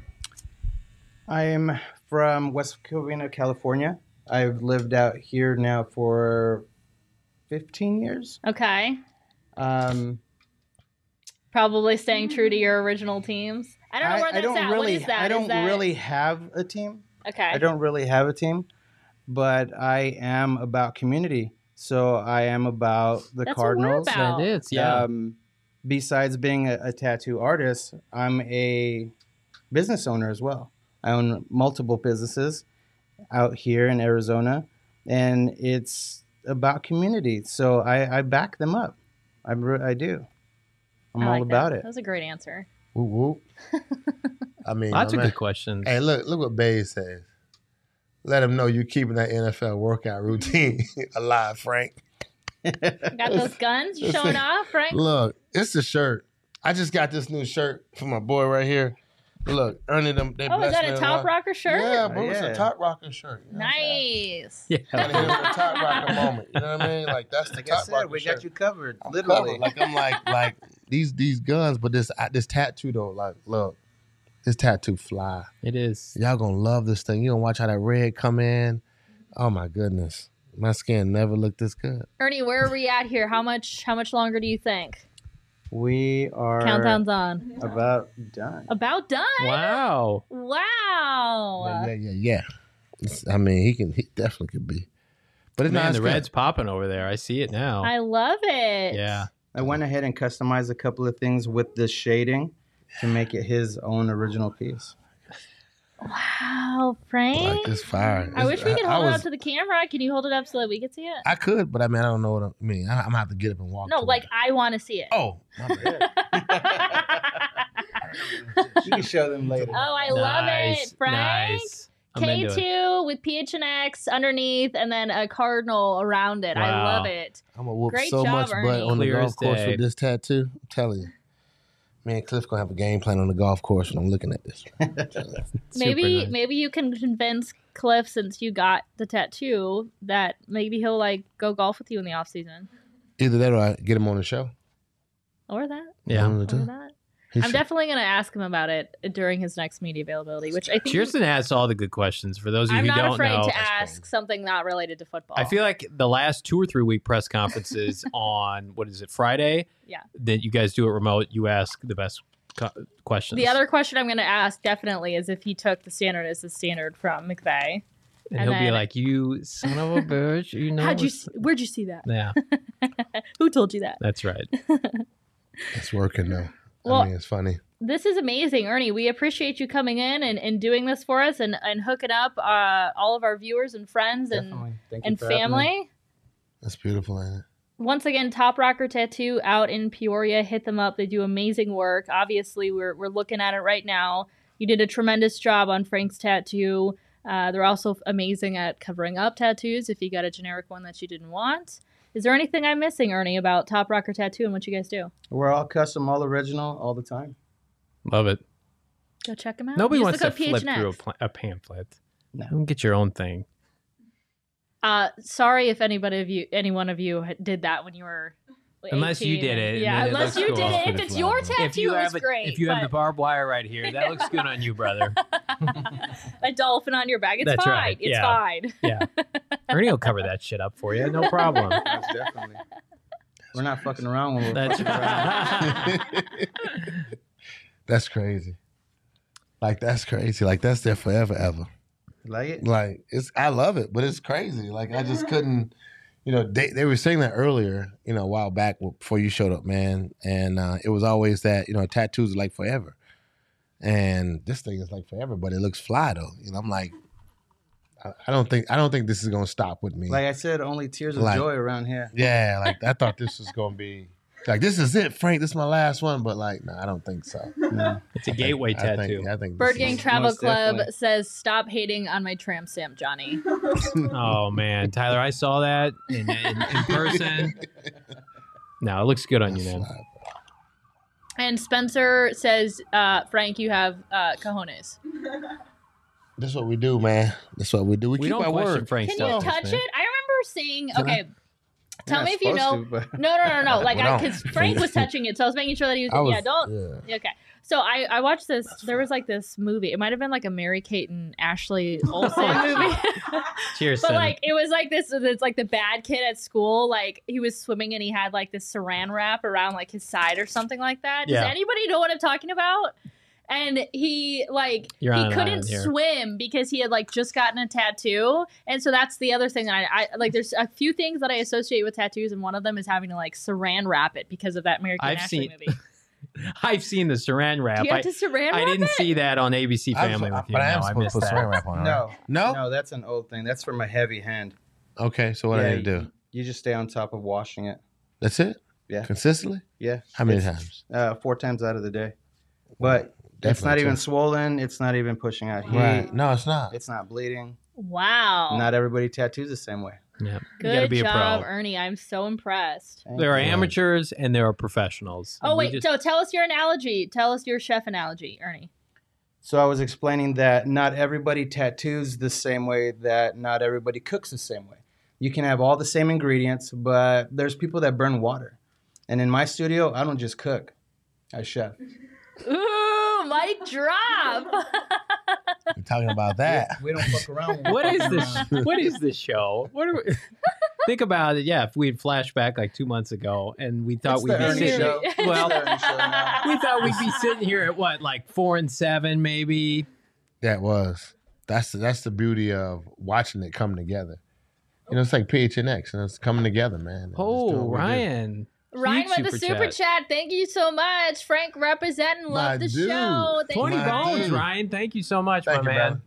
I'm from West Covina, California. I've lived out here now for 15 years.
Okay,
Um,
probably staying true to your original teams. I don't know where that's at. What is that?
I
Is
don't
that-
really have a team.
Okay.
I don't really have a team, but I am about community. So I am about the
That's what we're
Cardinals.
about.
That is, yeah.
Besides being a tattoo artist, I'm a business owner as well. I own multiple businesses out here in Arizona, and it's about community. So I back them up. I do. I'm
I
all
like
about
that.
it.
That was a great answer.
Whoop, whoop. I mean,
Lots
my
of
man-
good questions.
Hey, look what Bae says. Let him know you keeping that NFL workout routine alive, Frank.
Got those guns you showing off, right?
Look, it's the shirt. I just got this new shirt for my boy right here. Look, Ernie them. They
Oh, is
blessed
that
me
a
with
top
one.
rocker shirt?
Yeah, bro, it's
Yeah.
a top rocker shirt. You know what I'm saying?
Nice.
Yeah.
Gotta hit him with a top rocker moment. You know what I mean? Like that's the
Like I
top
said,
rocker
we
shirt.
got you covered.
I'm
Literally.
covered. Like I'm like these guns, but this tattoo though. Like, look, this tattoo fly.
It is.
Y'all gonna love this thing. You gonna watch how that red come in. Oh my goodness. My skin never looked this good.
Ernie, where are we at here? How much longer do you think?
We are
Countdown's on.
about done.
About done?
Wow.
Wow.
Yeah. I mean, he definitely could be. But it's
Man,
not
the red's popping over there. I see it now.
I love it.
Yeah.
I went ahead and customized a couple of things with the shading to make it his own original piece.
Wow, Frank.
like this fire.
I wish we could hold it
was-
up to the camera. Can you hold it up so that we can see it?
I could, but I mean, I don't know what I mean. I'm gonna have to get up and walk.
No,
to
like
it.
I want to see it.
Oh, my bad.
You can show them later.
Oh, I love it, Frank.
Nice. I'm into it.
K2 with PHNX underneath and then a cardinal around it. I
Wow.
love it.
I'm gonna whoop
Great
so
job,
much butt
Ernie.
on the
Clear
golf
as
course
day.
with this tattoo. I'm telling you. Me and Cliff gonna have a game plan on the golf course when I'm looking at this.
Maybe
nice.
maybe you can convince Cliff, since you got the tattoo, that maybe he'll like go golf with you in the off season.
Either that or I get him on the show.
Or that.
Yeah.
One of the
Or
two.
that.
He
I'm
should-
definitely going to ask him about it during his next media availability, which I think
Cheerson asks all the good questions. For those of you
I'm
who
not
don't
afraid
know,
to ask something not related to football.
I feel like the last 2 or 3 week press conferences on, what is it, Friday?
Yeah.
That you guys do it remote, you ask the best questions.
The other question I'm going to ask definitely is if he took the standard as the standard from McVay.
and
and
he'll be
then-
like, you son of a bitch. You know.
Where'd you see that?
Yeah,
Who told you that?
that's right.
It's working though.
Well-
I mean, it's funny.
This is amazing, Ernie. We appreciate you coming in and doing this for us and hooking up all of our viewers and friends
Definitely. Thank you
and
for having me.
family.
That's beautiful, ain't it?
Once again, Top Rocker Tattoo out in Peoria. Hit them up. They do amazing work. Obviously, we're looking at it right now. You did a tremendous job on Frank's tattoo. They're also amazing at covering up tattoos if you got a generic one that you didn't want. Is there anything I'm missing, Ernie, about Top Rocker Tattoo and what you guys do?
We're all custom, all original, all the time.
Love it.
Go check them out.
Nobody
Use
wants
the
to
code
flip
PHNX.
through a pamphlet.
No.
You can get your own thing.
Sorry if any one of you did that when you were
Unless you
18.
did it, and
Yeah,
then it
unless
looks
you
cool.
did it. If
Pretty
it's
fly,
your
though.
tattoo, it's great.
If you have the
but
barbed wire right here, that looks good on you, brother.
a dolphin on your back, it's
That's
fine.
right,
It's
yeah.
fine.
Yeah. Ernie will cover that shit up for you. No problem.
Most definitely. We're not fucking around when we're
That's
fucking around.
That's crazy. Like that's crazy. Like that's there forever, ever.
Like it?
Like I love it, but it's crazy. Like I just couldn't. They were saying that earlier. A while back before you showed up, man. And it was always that tattoos are like forever, and this thing is like forever, but it looks fly though. I'm like, I don't think this is gonna stop with me.
Like I said, only tears of
Like-
joy around here.
Yeah, like I thought this was gonna be like this is it, Frank. This is my last one, but like, no, I don't think so.
No.
It's a gateway tattoo.
I think
Bird
this
Gang
is-
Travel
most
Club
definitely.
says, "Stop hating on my tramp stamp, Johnny."
Oh man, Tyler, I saw that in person. No, it looks good on you, man.
And Spencer says, "Frank, you have cojones.
This is what we do, man. This is what we do. We
We
keep
don't
our
question
word.
Frank's
Can you
tattoos,
touch
man.
it?" I remember seeing.
Can I?
Okay, tell
You're
me
not
if you know.
supposed to, but-
No. Like,
We don't.
because Frank was touching it, so I was making sure that he was. Yeah, don't.
Yeah.
Okay. So I watched this. There was like this movie. It might have been like a Mary Kate and Ashley Olsen movie.
Cheers,
But
son.
like it was like this. It's like the bad kid at school. Like he was swimming and he had like this saran wrap around like his side or something like that. Does
Yeah.
anybody know what I'm talking about? And he like
You're on
he
an
couldn't
island here.
swim because he had like just gotten a tattoo. And so that's the other thing that I like. There's a few things that I associate with tattoos, and one of them is having to like saran wrap it because of that Mary Kate and
I've
Ashley
seen-
movie.
I've seen the saran wrap.
Do you have to saran wrap
I didn't
it?
see that on ABC Family with you.
But I am
No, I
supposed
missed
to put
that.
saran wrap on. Right?
No.
No.
No, that's an old thing. That's from a heavy hand.
Okay, so what I need to do?
You just stay on top of washing it.
That's it.
Yeah.
Consistently.
Yeah.
How many
It's,
times?
4 times out of the day. But it's
Definitely
not even
too.
swollen. It's not even pushing out heat.
Right. No, it's not.
It's not bleeding.
Wow.
Not everybody tattoos the same way.
Yeah. You gotta
Good
be a
job,
pro.
Ernie. I'm so impressed.
Thank
There are
you.
amateurs and there are professionals.
Oh
We
wait,
just-
so tell us your analogy. Tell us your chef analogy, Ernie.
So I was explaining that not everybody tattoos the same way, that not everybody cooks the same way. You can have all the same ingredients, but there's people that burn water. And in my studio, I don't just cook. I chef.
Ooh, mic drop.
We're talking about that.
We don't fuck around.
What is this? What is this show? What are we, think about it. Yeah, if we had flashback like 2 months ago, and we thought
It's
we'd
the
be
Ernie
sitting.
show.
Well,
It's the Ernie show now.
we thought we'd be sitting here at what, like 4-7, maybe.
That was. That's the beauty of watching it come together. You know, it's like PHNX, and it's coming together, man. And just doing
Oh,
what we do.
Ryan.
Ryan
Huge
with the super chat. Thank you so much. Frank representing. Love
My
the
dude.
show. Thank
20
you.
My
bones,
dude.
Ryan. Thank you so much,
Thank
my
you,
man.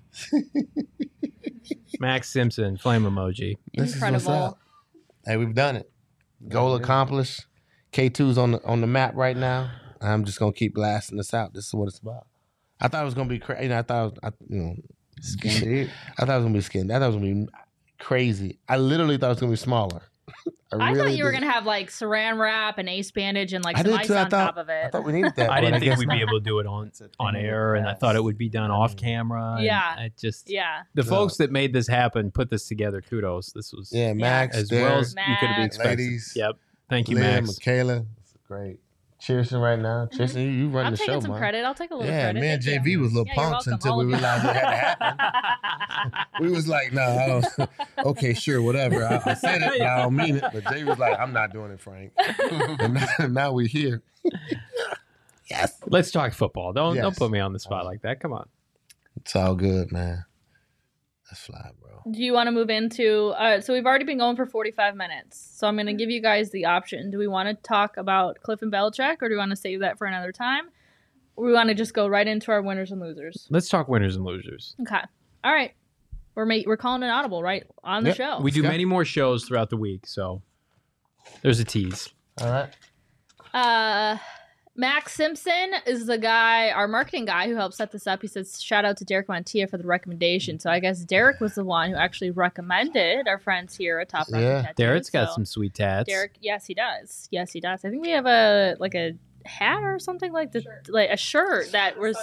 Max Simpson, flame emoji.
This is what's
Incredible.
up. Hey, we've done it. Goal accomplished. K2's on the map right now. I'm just gonna keep blasting this out. This is what it's about. I thought it was gonna be crazy. You know, I thought it was gonna be skin. I thought it was gonna be crazy. I literally thought it was gonna be smaller.
I
really
thought you were
did.
going to have like saran wrap and ace bandage and like
I
some
did
ice
too.
on top of
I
it.
thought we needed that.
I
but
didn't think
guess
we'd be
not.
able to do it on air, and I thought it would be done off camera. and
Yeah.
I just
Yeah.
the
No.
folks that made this happen put this together. Kudos. This was
Yeah, Max,
as
Derek,
well as you could have
Max.
expected.
Ladies.
Yep. Thank you,
Leah,
Max.
Michaela. It's great. Cheerson right now. Cheerson, you run
I'm
the
taking
show,
some
man.
credit. I'll take a little
Yeah,
credit.
me and
Thank you.
JV was little
Yeah, you're
punks
welcome,
until
all
we
of you.
realized it had to happen. We was like, no, I don't. Okay, sure, whatever. I said it, but I don't mean it. But Jay was like, I'm not doing it, Frank. And now we're here. Yes.
Let's talk football. Don't
Yes.
put me on the spot like that. Come on.
It's all good, man. Let's fly, bro.
Do you want to move into so we've already been going for 45 minutes, so I'm going to give you guys the option. Do we want to talk about Cliff and Belichick, or do we want to save that for another time, or we want to just go right into our winners and losers?
Let's talk winners and losers.
Okay, all right, we're calling an audible right on the
Yep.
show.
We do
go.
many more shows throughout the week, so there's a tease.
All right.
Max Simpson is the guy, our marketing guy, who helped set this up. He says, shout out to Derek Montilla for the recommendation. So I guess Derek was the one who actually recommended our friends here at Top Rocket
Yeah.
Tattoos.
Derek's got
So
some sweet tats.
Derek, yes, he does. Yes, he does. I think we have a hat or something like a shirt that was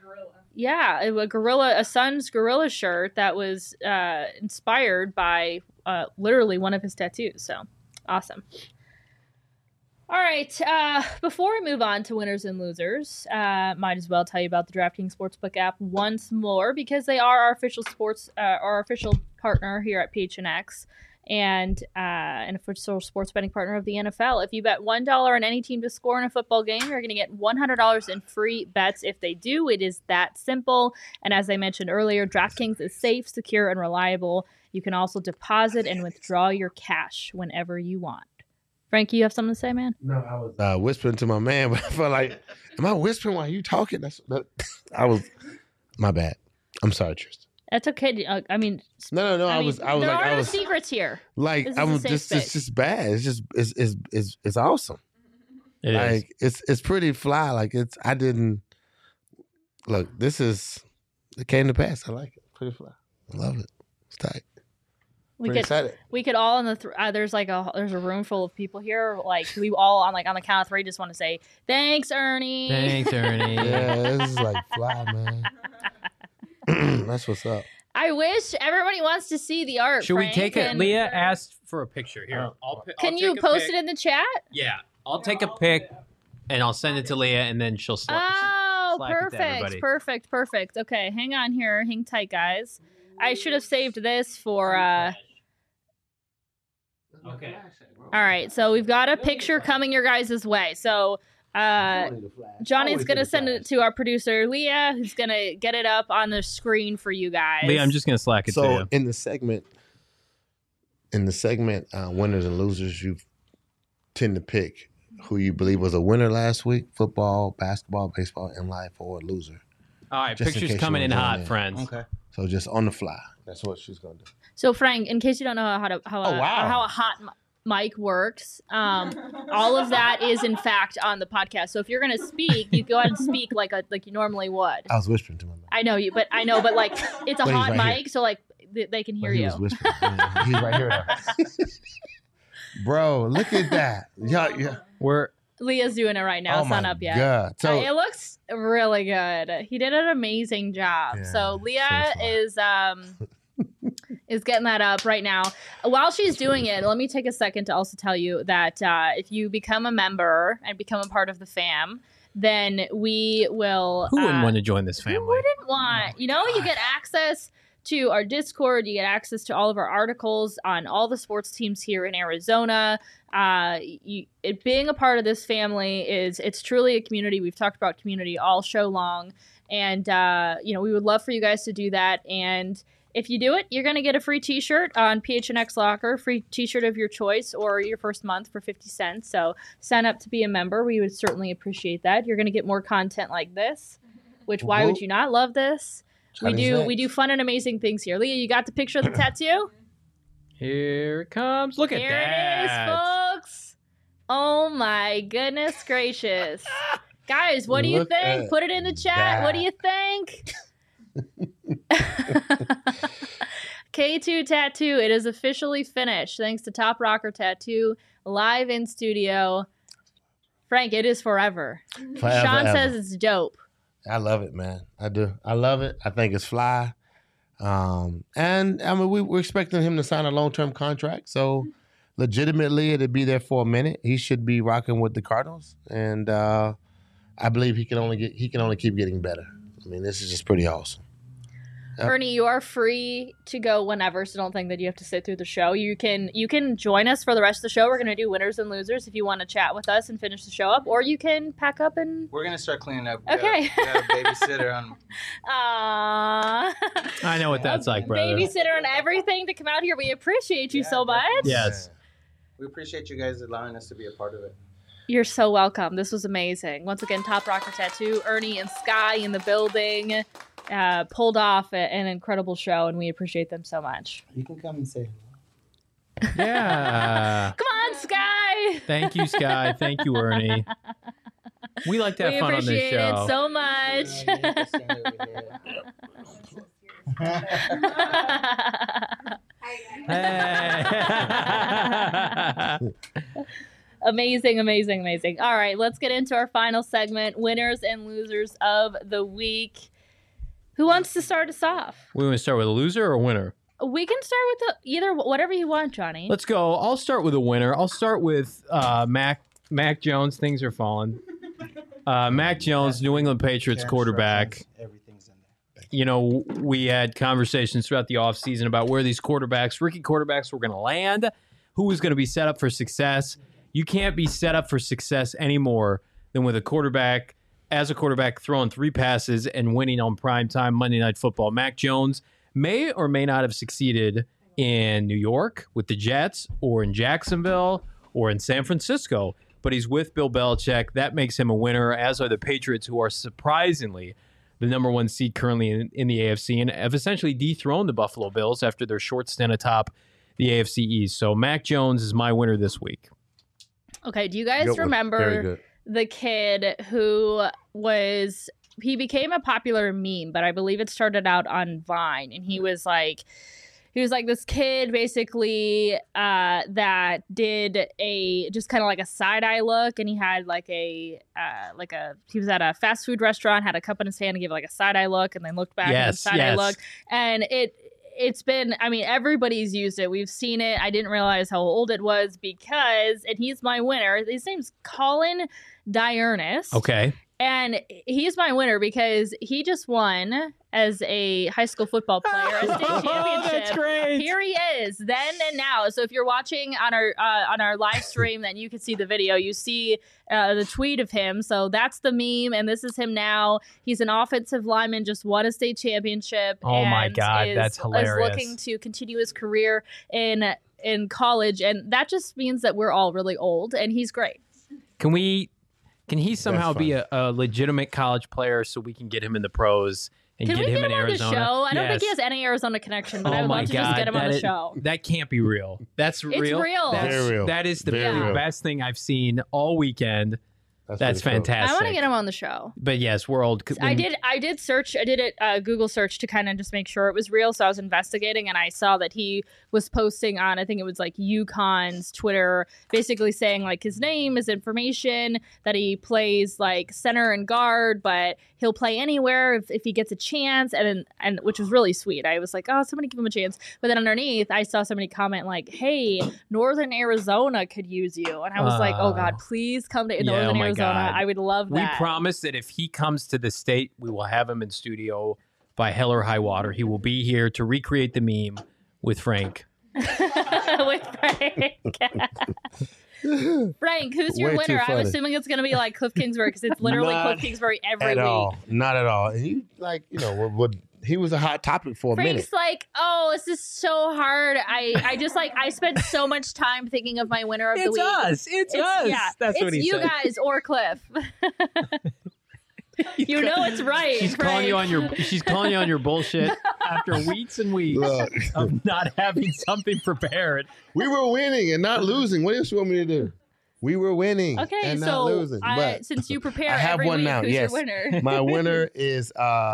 a son's gorilla shirt that was inspired by literally one of his tattoos. So awesome. All right. Before we move on to winners and losers, might as well tell you about the DraftKings Sportsbook app once more, because they are our official partner here at PHNX and an official sports betting partner of the NFL. If you bet $1 on any team to score in a football game, you're going to get $100 in free bets if they do. It is that simple. And as I mentioned earlier, DraftKings is safe, secure, and reliable. You can also deposit and withdraw your cash whenever you want. Frankie, you have something to say, man?
No, I was whispering to my man, but I felt like, am I whispering while you talking? My bad. I'm sorry, Tristan.
That's okay. I mean,
No. I was
there
like,
are no secrets here.
like,
This is
I'm
a safe
just,
space.
it's just bad. It's just, it's awesome.
It is.
Like, it's pretty fly. Like, I didn't look. It came to pass. I like it. Pretty fly. I love it. It's tight.
We
Pretty
could
excited.
we could all in the there's a room full of people here. Like we all on the count of three just want to say thanks, Ernie.
Thanks, Ernie.
Yeah, this is like fly, man. That's what's up.
I wish everybody wants to see the art.
Should
Frank,
we take it?
and-
Leah asked for a picture. Here,
Can you post it in the chat?
Yeah, I'll take a pic and I'll send it to Leah, and then she'll
Oh,
Slack it to everybody.
perfect. Okay, hang on here. Hang tight, guys. I should have saved this for.
Okay.
All right, so we've got a picture coming your guys' way. So Johnny's going to send it to our producer, Leah, who's going to get it up on the screen for you guys.
Leah, I'm just gonna slack it to
So
you.
in the segment, winners and losers, you tend to pick who you believe was a winner last week: football, basketball, baseball, in life, or a loser.
All right,
just in
pictures
case
coming
you
in
wanna
hot,
join in.
friends.
Okay.
So just on the fly. That's what she's gonna do.
So Frank, in case you don't know
wow.
how a hot mic works, all of that is in fact on the podcast. So if you're going to speak, you go ahead and speak like you normally would.
I was whispering to my man.
I know, but like it's a
But he's
hot
right
mic, so like they can hear
But he
you.
was whispering. Yeah, he's right here though. Bro, look at that. Yeah.
Leah's doing it right now.
Oh
It's not
my
up yet.
God. So
It looks really good. He did an amazing job.
Yeah,
So Leah
so far.
is getting that up right now. While she's doing it, let me take a second to also tell you that if you become a member and become a part of the fam, then we will.
Who wouldn't want to join this
Who
family?
wouldn't want? You know, you get access to our Discord. You get access to all of our articles on all the sports teams here in Arizona. Being a part of this family it's truly a community. We've talked about community all show long, and we would love for you guys to do that. And if you do it, you're going to get a free t-shirt on PHNX Locker, free t-shirt of your choice, or your first month for 50 cents. So sign up to be a member. We would certainly appreciate that. You're going to get more content like this, which why would you not love this? We do fun and amazing things here. Leah, you got the picture of the tattoo?
Here it comes. Look at
Here
that.
it is, folks. Oh my goodness gracious. Guys, what do you think? Put it in the chat. What do you think? K2 Tattoo, it is officially finished thanks to Top Rocker Tattoo, live in studio. Frank, it is forever. Sean says it's dope.
I love it, man. I do. I love it. I think it's fly. And I mean, we're expecting him to sign a long-term contract. So legitimately, it'll be there for a minute. He should be rocking with the Cardinals. And I believe he can only keep getting better. I mean, this is just pretty awesome. Yep.
Ernie, you are free to go whenever, so don't think that you have to sit through the show. You can join us for the rest of the show. We're going to do winners and losers if you want to chat with us and finish the show up, or you can pack up and...
We're going to start cleaning up.
Okay.
We got a babysitter on.
Aww.
I know what that's like, brother.
Babysitter and everything to come out here. We appreciate you so much.
Yes.
We appreciate you guys allowing us to be a part of it.
You're so welcome. This was amazing. Once again, Top Rocker Tattoo, Ernie and Sky in the building. Pulled off an incredible show, and we appreciate them so much.
You can come and say
hello. Yeah.
Come on, Sky.
Thank you, Sky. Thank you, Ernie. We like to have fun on this show.
We appreciate it so much. Amazing, amazing, amazing. All right, let's get into our final segment, winners and losers of the week. Who wants to start us off?
We want to start with a loser or a winner?
We can start with either whatever you want, Johnny.
Let's go. I'll start with a winner. I'll start with Mac Jones. Things are falling. Mac Jones, New England Patriots quarterback.
Everything's in there.
You know, we had conversations throughout the offseason about where these rookie quarterbacks were going to land, who was going to be set up for success. You can't be set up for success anymore than with a quarterback throwing 3 passes and winning on primetime Monday Night Football. Mac Jones may or may not have succeeded in New York with the Jets or in Jacksonville or in San Francisco, but he's with Bill Belichick. That makes him a winner, as are the Patriots, who are surprisingly the number 1 seed currently in the AFC and have essentially dethroned the Buffalo Bills after their short stint atop the AFC East. So Mac Jones is my winner this week.
Okay, do you guys remember the kid who he became a popular meme, but I believe it started out on Vine, and he was like this kid basically that did just kind of like a side eye look, and he had he was at a fast food restaurant, had a cup in his hand, and gave like a side eye look, and then looked back and side eye look, and it's been, I mean, everybody's used it. We've seen it. I didn't realize how old it was and he's my winner. His name's Colin Diurnus.
Okay.
And he's my winner because he just won as a high school football player a state championship.
That's great.
Here he is, then and now. So if you're watching on our live stream, then you can see the video. You see the tweet of him. So that's the meme, and this is him now. He's an offensive lineman, just won a state championship.
Oh my God, that's hilarious.
Is looking to continue his career in college, and that just means that we're all really old, and he's great.
Can he somehow be a legitimate college player so we can get him in the pros and get him in Arizona?
The show? I don't think he has any Arizona connection, but I would love to just get him on the show.
That can't be real. That's real.
It's real.
Very real.
That is the best thing I've seen all weekend. That's fantastic.
I want to get him on the show.
But yes, we're old.
I did search. I did a Google search to kind of just make sure it was real. So I was investigating, and I saw that he was posting on, I think it was like UConn's Twitter, basically saying like his name, his information, that he plays like center and guard, but he'll play anywhere if he gets a chance, and which was really sweet. I was like, oh, somebody give him a chance. But then underneath, I saw somebody comment like, hey, Northern Arizona could use you, and I was like, oh God, please come to Northern Arizona. Arizona.
God.
I would love
We
that.
promise that if he comes to the state, we will have him in studio by hell or high water. He will be here to recreate the meme with Frank.
With Frank. Frank, who's your
Way too
winner? I'm
funny.
assuming it's going to be like Cliff Kingsbury because it's literally
Not
Cliff Kingsbury every
at
week.
all. Not at all. And he, like, you know, what he was a hot topic for a minute.
Frank's like, oh, this is so hard. I just like I spent so much time thinking of my winner of the week.
It's us.
Yeah,
That's
it's
what he
you
said.
guys or Cliff. You know it's right.
She's
Frank.
calling you on your bullshit after weeks and weeks
Look,
of not having something prepared.
we were winning and not losing. What else you want me to do? We were winning
Okay,
and not
so
losing. But
since you prepare
I have
every
one
week,
now.
who's
Yes,
your winner?
my winner is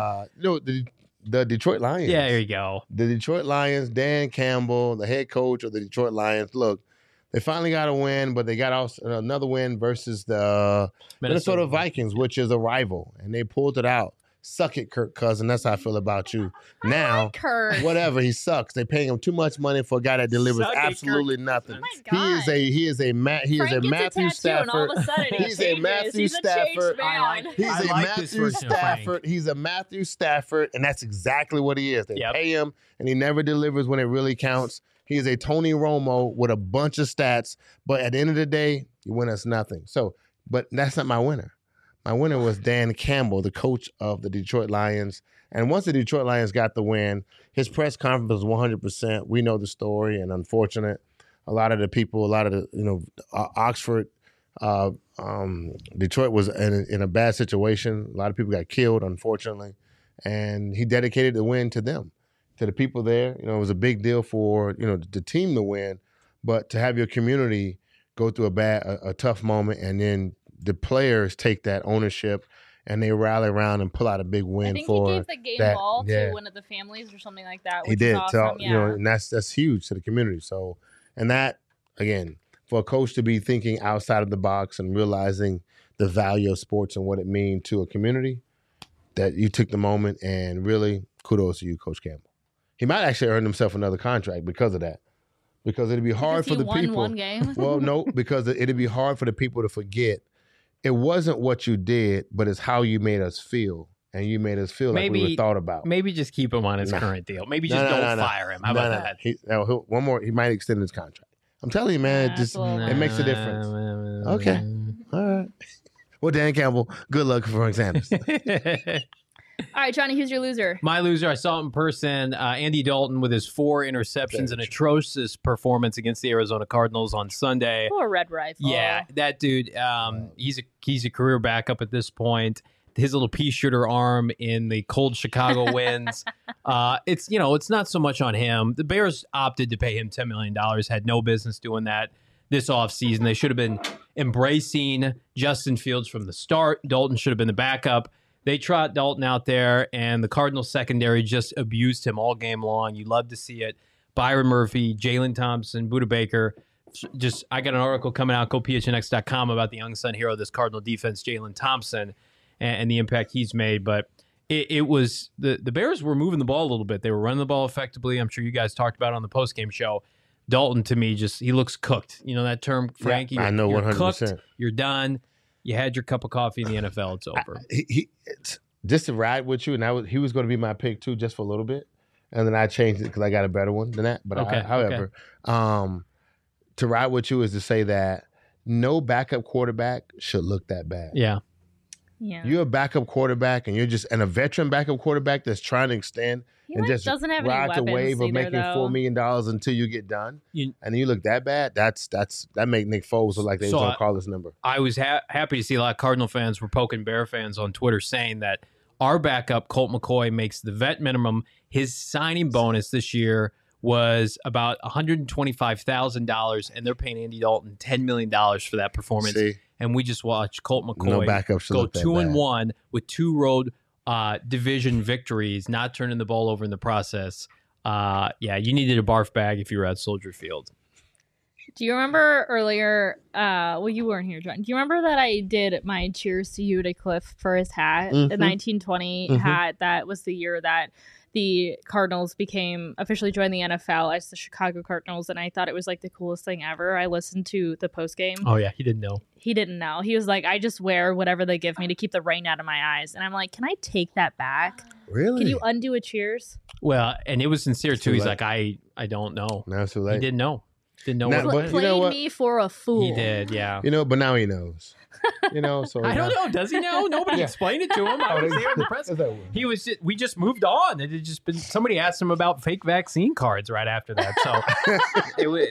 the Detroit Lions.
Yeah, there you go.
The Detroit Lions, Dan Campbell, the head coach of the Detroit Lions. Look, they finally got a win, but they got also another win versus the Minnesota Vikings, which is a rival, and they pulled it out. Suck it, Kirk Cousins. That's how I feel about you. Now,
Kurt.
whatever, he sucks. They're paying him too much money for a guy that delivers
Suck it,
absolutely nothing.
Oh my God.
He is a
Frank gets a
Matthew
tattoo and all
Stafford.
of a sudden he
He's a
changes.
Matthew
He's
Stafford.
a changed man.
He's
I
a
like this
Matthew
version of Frank.
Stafford. He's a Matthew Stafford, and that's exactly what he is. They
Yep.
pay him, and he never delivers when it really counts. He's a Tony Romo with a bunch of stats, but at the end of the day, you win us nothing. So, but that's not my winner. My winner was Dan Campbell, the coach of the Detroit Lions. And once the Detroit Lions got the win, his press conference was 100%. We know the story, and unfortunate. A lot of the people, Oxford, Detroit was in a bad situation. A lot of people got killed, unfortunately. And he dedicated the win to them, to the people there. You know, it was a big deal for, the team to win, but to have your community go through a tough moment, and then the players take that ownership and they rally around and pull out a big win
I think
for
he gave the game
that.
ball
Yeah.
to one of the families or something like that. Which
He did.
Is awesome.
So, and that's huge to the community. So, and that, again, for a coach to be thinking outside of the box and realizing the value of sports and what it means to a community, that you took the moment, and really kudos to you, Coach Campbell. He might actually earn himself another contract because of that. Because it'd be hard for the people.
One game.
Well, no, because it'd be hard for the people to forget. It wasn't what you did, but it's how you made us feel. And you made us feel like we were thought about.
Maybe just keep him on his current deal. Maybe just don't fire him. How about that?
One more. He might extend his contract. I'm telling you, man. It makes a difference. Okay. All right. Well, Dan Campbell, good luck for Frank Sanders.
All right, Johnny, who's your loser?
My loser, I saw it in person. Andy Dalton with his 4 interceptions, an atrocious performance against the Arizona Cardinals on Sunday.
Poor Red Rifle.
Yeah, that dude. He's a career backup at this point. His little pea shooter arm in the cold Chicago winds. It's not so much on him. The Bears opted to pay him $10 million. Had no business doing that this offseason. They should have been embracing Justin Fields from the start. Dalton should have been the backup. They trot Dalton out there, and the Cardinals secondary just abused him all game long. You love to see it. Byron Murphy, Jalen Thompson, Budda Baker. I got an article coming out, GoPHNX.com, about the unsung hero of this Cardinal defense, Jalen Thompson, and the impact he's made. But it was the Bears were moving the ball a little bit. They were running the ball effectively. I'm sure you guys talked about it on the postgame show. Dalton, to me, he looks cooked. You know that term, Frankie?
Yeah, I know,
you're
100%.
Cooked, you're done. You had your cup of coffee in the NFL. It's over.
Just to ride with you, and he was going to be my pick too, just for a little bit, and then I changed it because I got a better one than that. But however, to ride with you is to say that no backup quarterback should look that bad.
Yeah.
You're a backup quarterback, and you're just a veteran backup quarterback that's trying to extend and just
doesn't have
ride
any
the wave of making $4
million
million until you get done. And you look that bad. That make Nick Foles look like they was going to call his number.
I was happy to see a lot of Cardinal fans were poking Bear fans on Twitter saying that our backup, Colt McCoy, makes the vet minimum. His signing bonus this year was about $125,000, and they're paying Andy Dalton $10 million for that performance.
See?
And we just watched Colt McCoy go 2-1 with 2 road division victories, not turning the ball over in the process. You needed a barf bag if you were at Soldier Field.
Do you remember earlier? Well, you weren't here, John. Do you remember that I did my cheers to you to Cliff for his hat, the 1920 hat? That was the year that the Cardinals officially joined the NFL as the Chicago Cardinals, and I thought it was like the coolest thing ever. I listened to the post game.
Oh yeah, he didn't know.
He didn't know. He was like, I just wear whatever they give me to keep the rain out of my eyes. And I'm like, can I take that back?
Really?
Can you undo a cheers?
Well, and it was sincere too.
too
He's
late.
like, I don't know.
Now it's too
He
late.
didn't know. Didn't know
Now-
what.
but you
Played
know what?
me for a fool.
He did, yeah.
But now he knows. So
I don't know. Does he know? Nobody
Yeah.
explained it to him. I was there in the press. He was. We just moved on. It had just been. Somebody asked him about fake vaccine cards right after that. So it was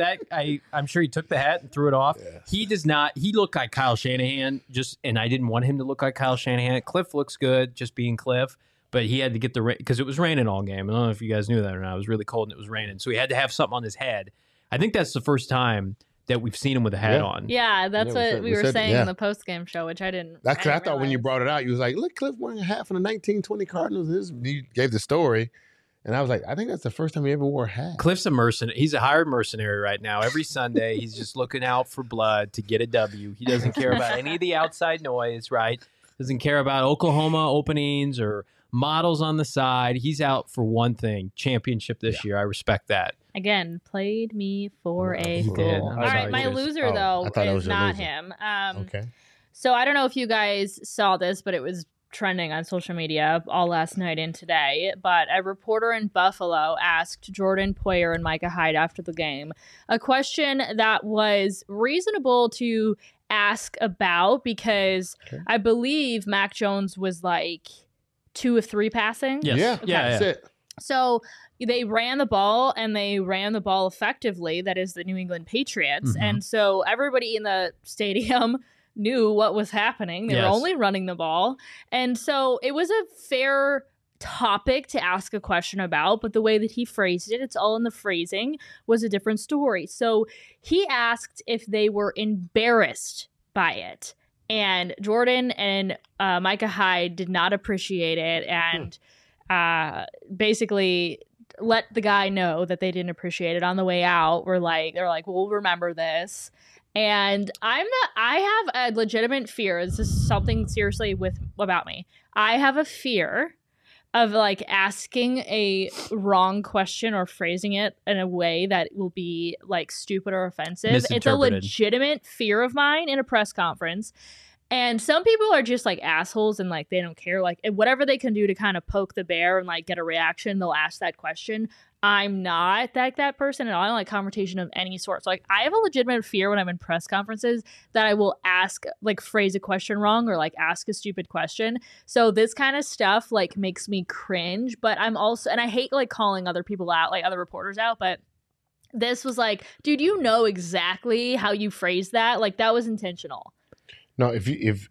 I'm sure he took the hat and threw it off.
Yes.
He does not. He looked like Kyle Shanahan. And I didn't want him to look like Kyle Shanahan. Cliff looks good, just being Cliff. But he had to get the rain because it was raining all game. I don't know if you guys knew that or not. It was really cold and it was raining, so he had to have something on his head. I think that's the first time that we've seen him with a hat
Yeah.
on.
Yeah, that's
Yeah,
what
we
we were
said-
saying
yeah.
in the post game show, which I didn't.
That's because I
didn't
thought when you
realize.
brought it out, you was like, look, Cliff wearing a hat from the 1920 Cardinals. You gave the story. And I was like, I think that's the first time he ever wore a hat.
Cliff's a mercenary. He's a hired mercenary right now. Every Sunday, he's just looking out for blood to get a W. He doesn't care about any of the outside noise, right? Doesn't care about Oklahoma openings or models on the side. He's out for one thing: championship this year. I respect that.
Again, played me for a
He
fool.
did.
All
I'm
right,
sorry,
my
Chris.
loser
Oh,
though
I thought that was
is
your
not
loser.
him.
Okay.
So I don't know if you guys saw this, but it was trending on social media all last night and today. But a reporter in Buffalo asked Jordan Poyer and Micah Hyde after the game a question that was reasonable to ask about because
Okay.
I believe Mac Jones was like 2 of 3 passing.
Yes.
Yeah,
Yeah,
that's it.
So they ran the ball and they ran the ball effectively. That is the New England Patriots.
Mhm.
And so everybody in the stadium knew what was happening. They were
Yes.
only running the ball. And so it was a fair topic to ask a question about, but the way that he phrased it, it's all in the phrasing, was a different story. So he asked if they were embarrassed by it. And Jordan and Micah Hyde did not appreciate it and basically let the guy know that they didn't appreciate it on the way out. They're like, we'll remember this. And I have a legitimate fear. This is something seriously about me. I have a fear of like asking a wrong question or phrasing it in a way that will be like stupid or offensive. It's a
Misinterpreted.
legitimate fear of mine in a press conference. And some people are just like assholes and like they don't care. Like whatever they can do to kind of poke the bear and like get a reaction, they'll ask that question. I'm not that person at all. I don't like confrontation of any sort. So like I have a legitimate fear when I'm in press conferences that I will phrase a question wrong or like ask a stupid question. So this kind of stuff like makes me cringe. But I'm also, and I hate like calling other people out, like other reporters out, but this was like, dude, you know exactly how you phrased that. Like that was intentional.
No, if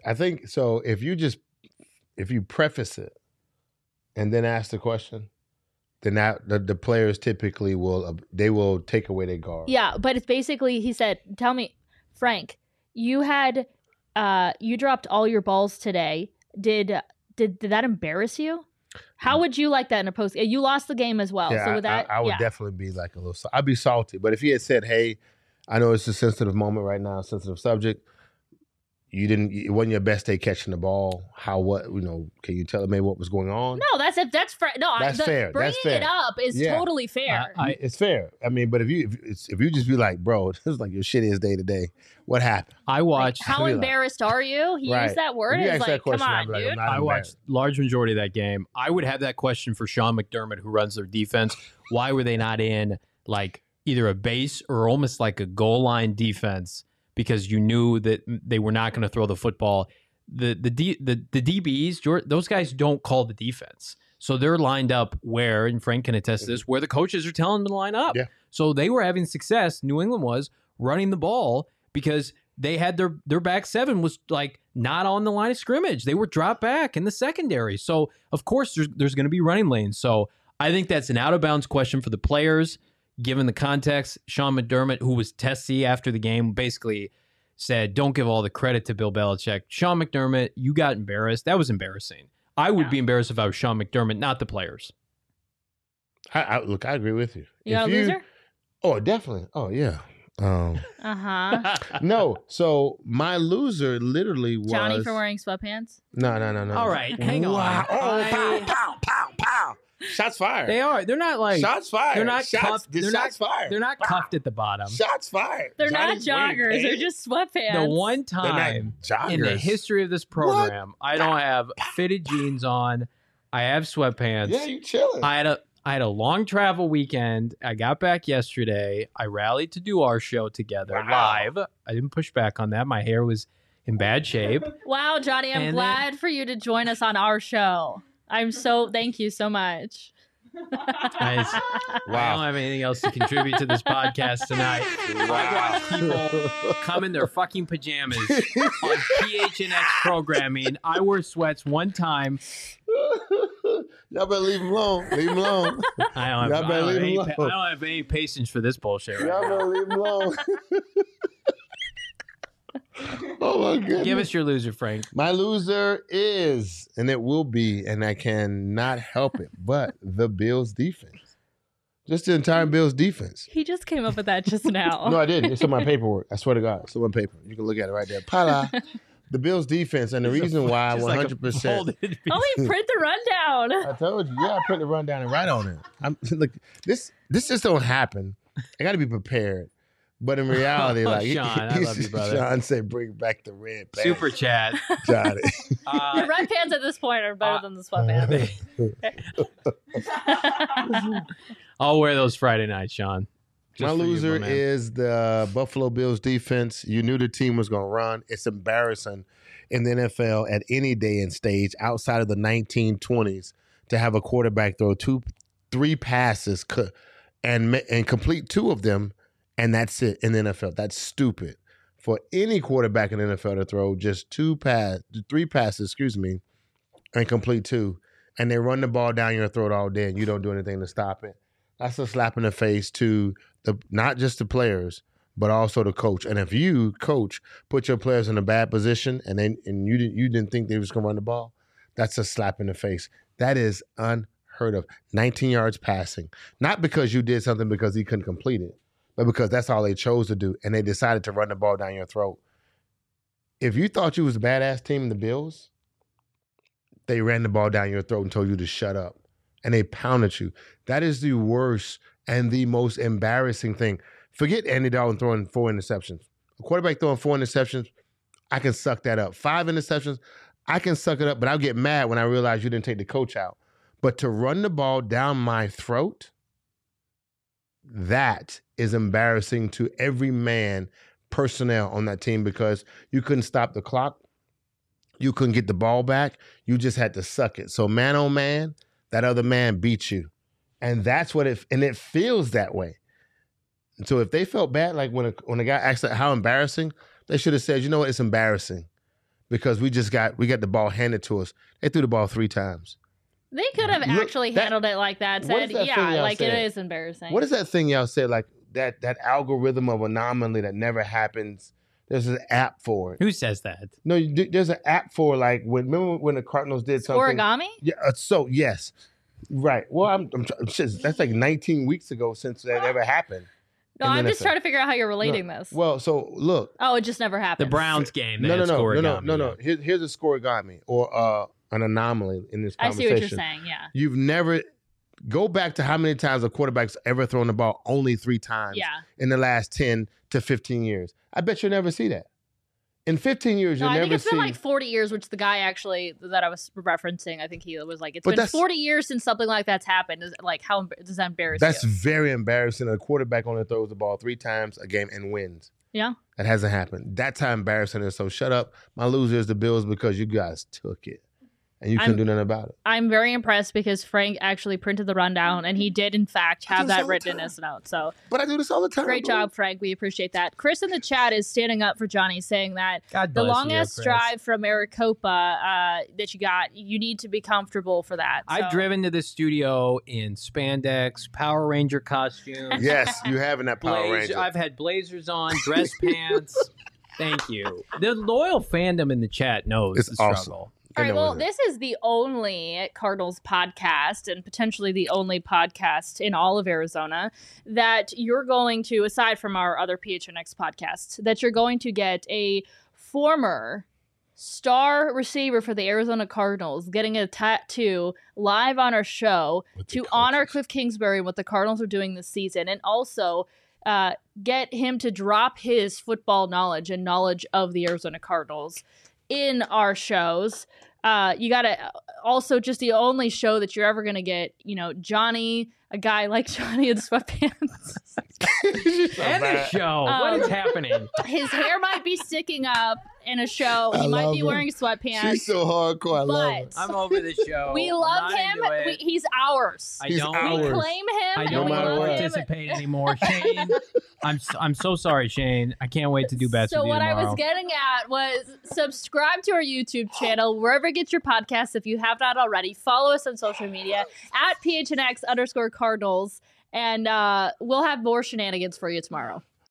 you preface it and then ask the question, then the players typically will take away their guard.
Yeah, but it's basically, he said, tell me, Frank, you dropped all your balls today. Did that embarrass you? How would you like that in a post? You lost the game as well.
Yeah,
So with that,
I would definitely be like a little. I'd be salty. But if he had said, "Hey, I know it's a sensitive moment right now, sensitive subject. It wasn't your best day catching the ball. Can you tell me what was going on?"
No, that's fair. No,
That's fair.
Bringing
That's fair.
it up is
Yeah.
totally fair.
It's fair. I mean, but if you just be like, "Bro, this is like your shittiest day today. What happened?"
I watched.
How
Like,
embarrassed are you? He
Right.
used that word.
If you
It's
ask that
like, come
question, I'd
on,
be like,
dude.
I'm not
I
embarrassed.
watched large majority of that game. I would have that question for Sean McDermott, who runs their defense. Why were they not in like either a base or almost like a goal line defense? Because you knew that they were not going to throw the football. The DBs, those guys don't call the defense. So they're lined up where, and Frank can attest to this, where the coaches are telling them to line up.
Yeah.
So they were having success. New England was running the ball because they had their back seven was like not on the line of scrimmage. They were dropped back in the secondary. So of course there's going to be running lanes. So I think that's an out of bounds question for the players, given the context. Sean McDermott, who was testy after the game, basically said, "Don't give all the credit to Bill Belichick. Sean McDermott, you got embarrassed. That was embarrassing. I would be embarrassed if I was Sean McDermott, not the players."
I agree with you.
You got a loser?
Oh, definitely. Oh, yeah.
Uh-huh.
No. So my loser literally was
Johnny for wearing sweatpants?
No.
All right, hang on.
Wow. Oh, pow, pow, pow, pow. Shots fired.
They are. They're not like
Shots fired.
They're not
shots,
cuffed.
They're
Not
fired.
They're not cuffed at the bottom.
Shots fired.
They're
Johnny's
not
wearing
joggers. They're
pants.
just sweatpants.
The one
They're not
time
joggers.
in the history of this program, I don't have fitted jeans on. I have sweatpants.
Yeah, you chilling.
I had a long travel weekend. I got back yesterday. I rallied to do our show together live. I didn't push back on that. My hair was in bad shape.
Wow, Johnny, I'm
And
glad for you to join us on our show. Thank you so much.
I don't have anything else to contribute to this podcast tonight. I watch people come in their fucking pajamas on PHNX programming. I wore sweats one time.
Y'all better leave him alone. Leave him alone.
I don't have any patience for this bullshit right
Y'all
now.
better leave him alone. Oh my goodness.
Give us your loser, Frank.
My loser is, and it will be, and I cannot help it, but the Bills defense. Just the entire Bills defense.
He just came up with that just now.
No, I didn't. It's on my paperwork. I swear to God. It's on my paper. You can look at it right there. Pala. The Bills defense, and the reason why
Just like a
100%.
folded piece.
Oh, he print the rundown.
I told you. Yeah, I put the rundown and write on it. Look, this just don't happen. I got to be prepared. But in reality, like
Sean, I love you, brother.
Sean said, "Bring back the red pants."
Super chat.
Johnny.
The red pants at this point are better than the sweatpants.
I'll wear those Friday nights, Sean. Just
My
for you,
loser
man.
is the Buffalo Bills defense. You knew the team was going to run. It's embarrassing in the NFL at any day and stage outside of the 1920s to have a quarterback throw 2-3 passes and complete 2 of them, and that's it in the NFL. That's stupid for any quarterback in the NFL to throw just 3 passes, and complete 2, and they run the ball down your throat all day, and you don't do anything to stop it. That's a slap in the face to not just the players, but also the coach. And if you, coach, put your players in a bad position and you didn't think they was going to run the ball, that's a slap in the face. That is unheard of. 19 yards passing. Not because you did something because he couldn't complete it, but because that's all they chose to do, and they decided to run the ball down your throat. If you thought you was a badass team in the Bills, they ran the ball down your throat and told you to shut up. And they pounded you. That is the worst and the most embarrassing thing. Forget Andy Dalton throwing 4 interceptions. A quarterback throwing 4 interceptions, I can suck that up. 5 interceptions, I can suck it up, but I'll get mad when I realize you didn't take the coach out. But to run the ball down my throat, that is embarrassing to every man, personnel on that team, because you couldn't stop the clock. You couldn't get the ball back. You just had to suck it. So man, oh man, that other man beat you. And that's what it feels that way. And so if they felt bad, like when a guy asked how embarrassing, they should have said, you know what, it's embarrassing because we got the ball handed to us. They threw the ball 3 times.
They could have actually handled it like that.
What
Said,
is that thing
yeah,
y'all
like
said?
it is embarrassing.
What is that thing y'all said, like that algorithm of anomaly that never happens? There's an app for it.
Who says that?
No, there's an app for remember when the Cardinals did something?
Origami?
Yeah, yes. Right. Well, that's like 19 weeks ago since that ever happened.
No,
in the
I'm just
NFL.
trying to figure out how you're relating this.
Well, so look.
Oh, it just never
The
happened.
Browns game.
No.
No.
Here's a scoregami or an anomaly in this
I
conversation.
see what you're saying, yeah.
You've never go back to how many times a quarterback's ever thrown the ball. Only 3 times
Yeah.
in the last 10 to 15 years. I bet you'll never see that. In 15 years,
No,
you'll
I think
never
it's
see.
been like 40 years, which the guy actually that I was referencing, I think he was like, it's
But
been
that's-
40 years since something like that's happened. Like, how does that embarrass
That's
you?
very embarrassing. A quarterback only throws the ball 3 times a game and wins.
Yeah.
That hasn't happened. That's how embarrassing it is. So shut up. My loser is the Bills because you guys took it. And you couldn't do nothing about it.
I'm very impressed because Frank actually printed the rundown and he did, in fact,
I do
have
this
that
all the
written in
time.
his note. So
But I do this all the time.
great
bro.
job, Frank. We appreciate that. Chris in the chat is standing up for Johnny, saying that
God
the
bless
longest
you, Chris.
drive from Maricopa that you got, you need to be comfortable for that.
I've
So-
driven to the studio in spandex, Power Ranger costumes.
Yes, you have in that Power
Blazer-
Ranger.
I've had blazers on, dress pants. Thank you. The loyal fandom in the chat knows
It's
the
awesome.
struggle.
All right,
know
well,
what it
this is the only Cardinals podcast and potentially the only podcast in all of Arizona that you're going to, aside from our other PHNX podcast, that you're going to get a former star receiver for the Arizona Cardinals, getting a tattoo live on our show to honor Cliff Kingsbury and what the Cardinals are doing this season, and also get him to drop his football knowledge and knowledge of the Arizona Cardinals in our shows. You gotta also, just the only show that you're ever gonna get, Johnny, a guy like Johnny in sweatpants.
And a show. What is happening?
His hair might be sticking up in a show. He might be wearing sweatpants.
She's so hardcore. I love it.
I'm over the show.
We love him. He's ours.
I don't.
We claim him.
I
and
don't
we
want to
love him.
participate anymore, Shane. I'm so sorry, Shane. I can't wait to do best
So
with you
what
tomorrow.
I was getting at was subscribe to our YouTube channel, wherever you get your podcasts. If you have not already, follow us on social media at PHNX_Cardinals, and we'll have more shenanigans for you tomorrow.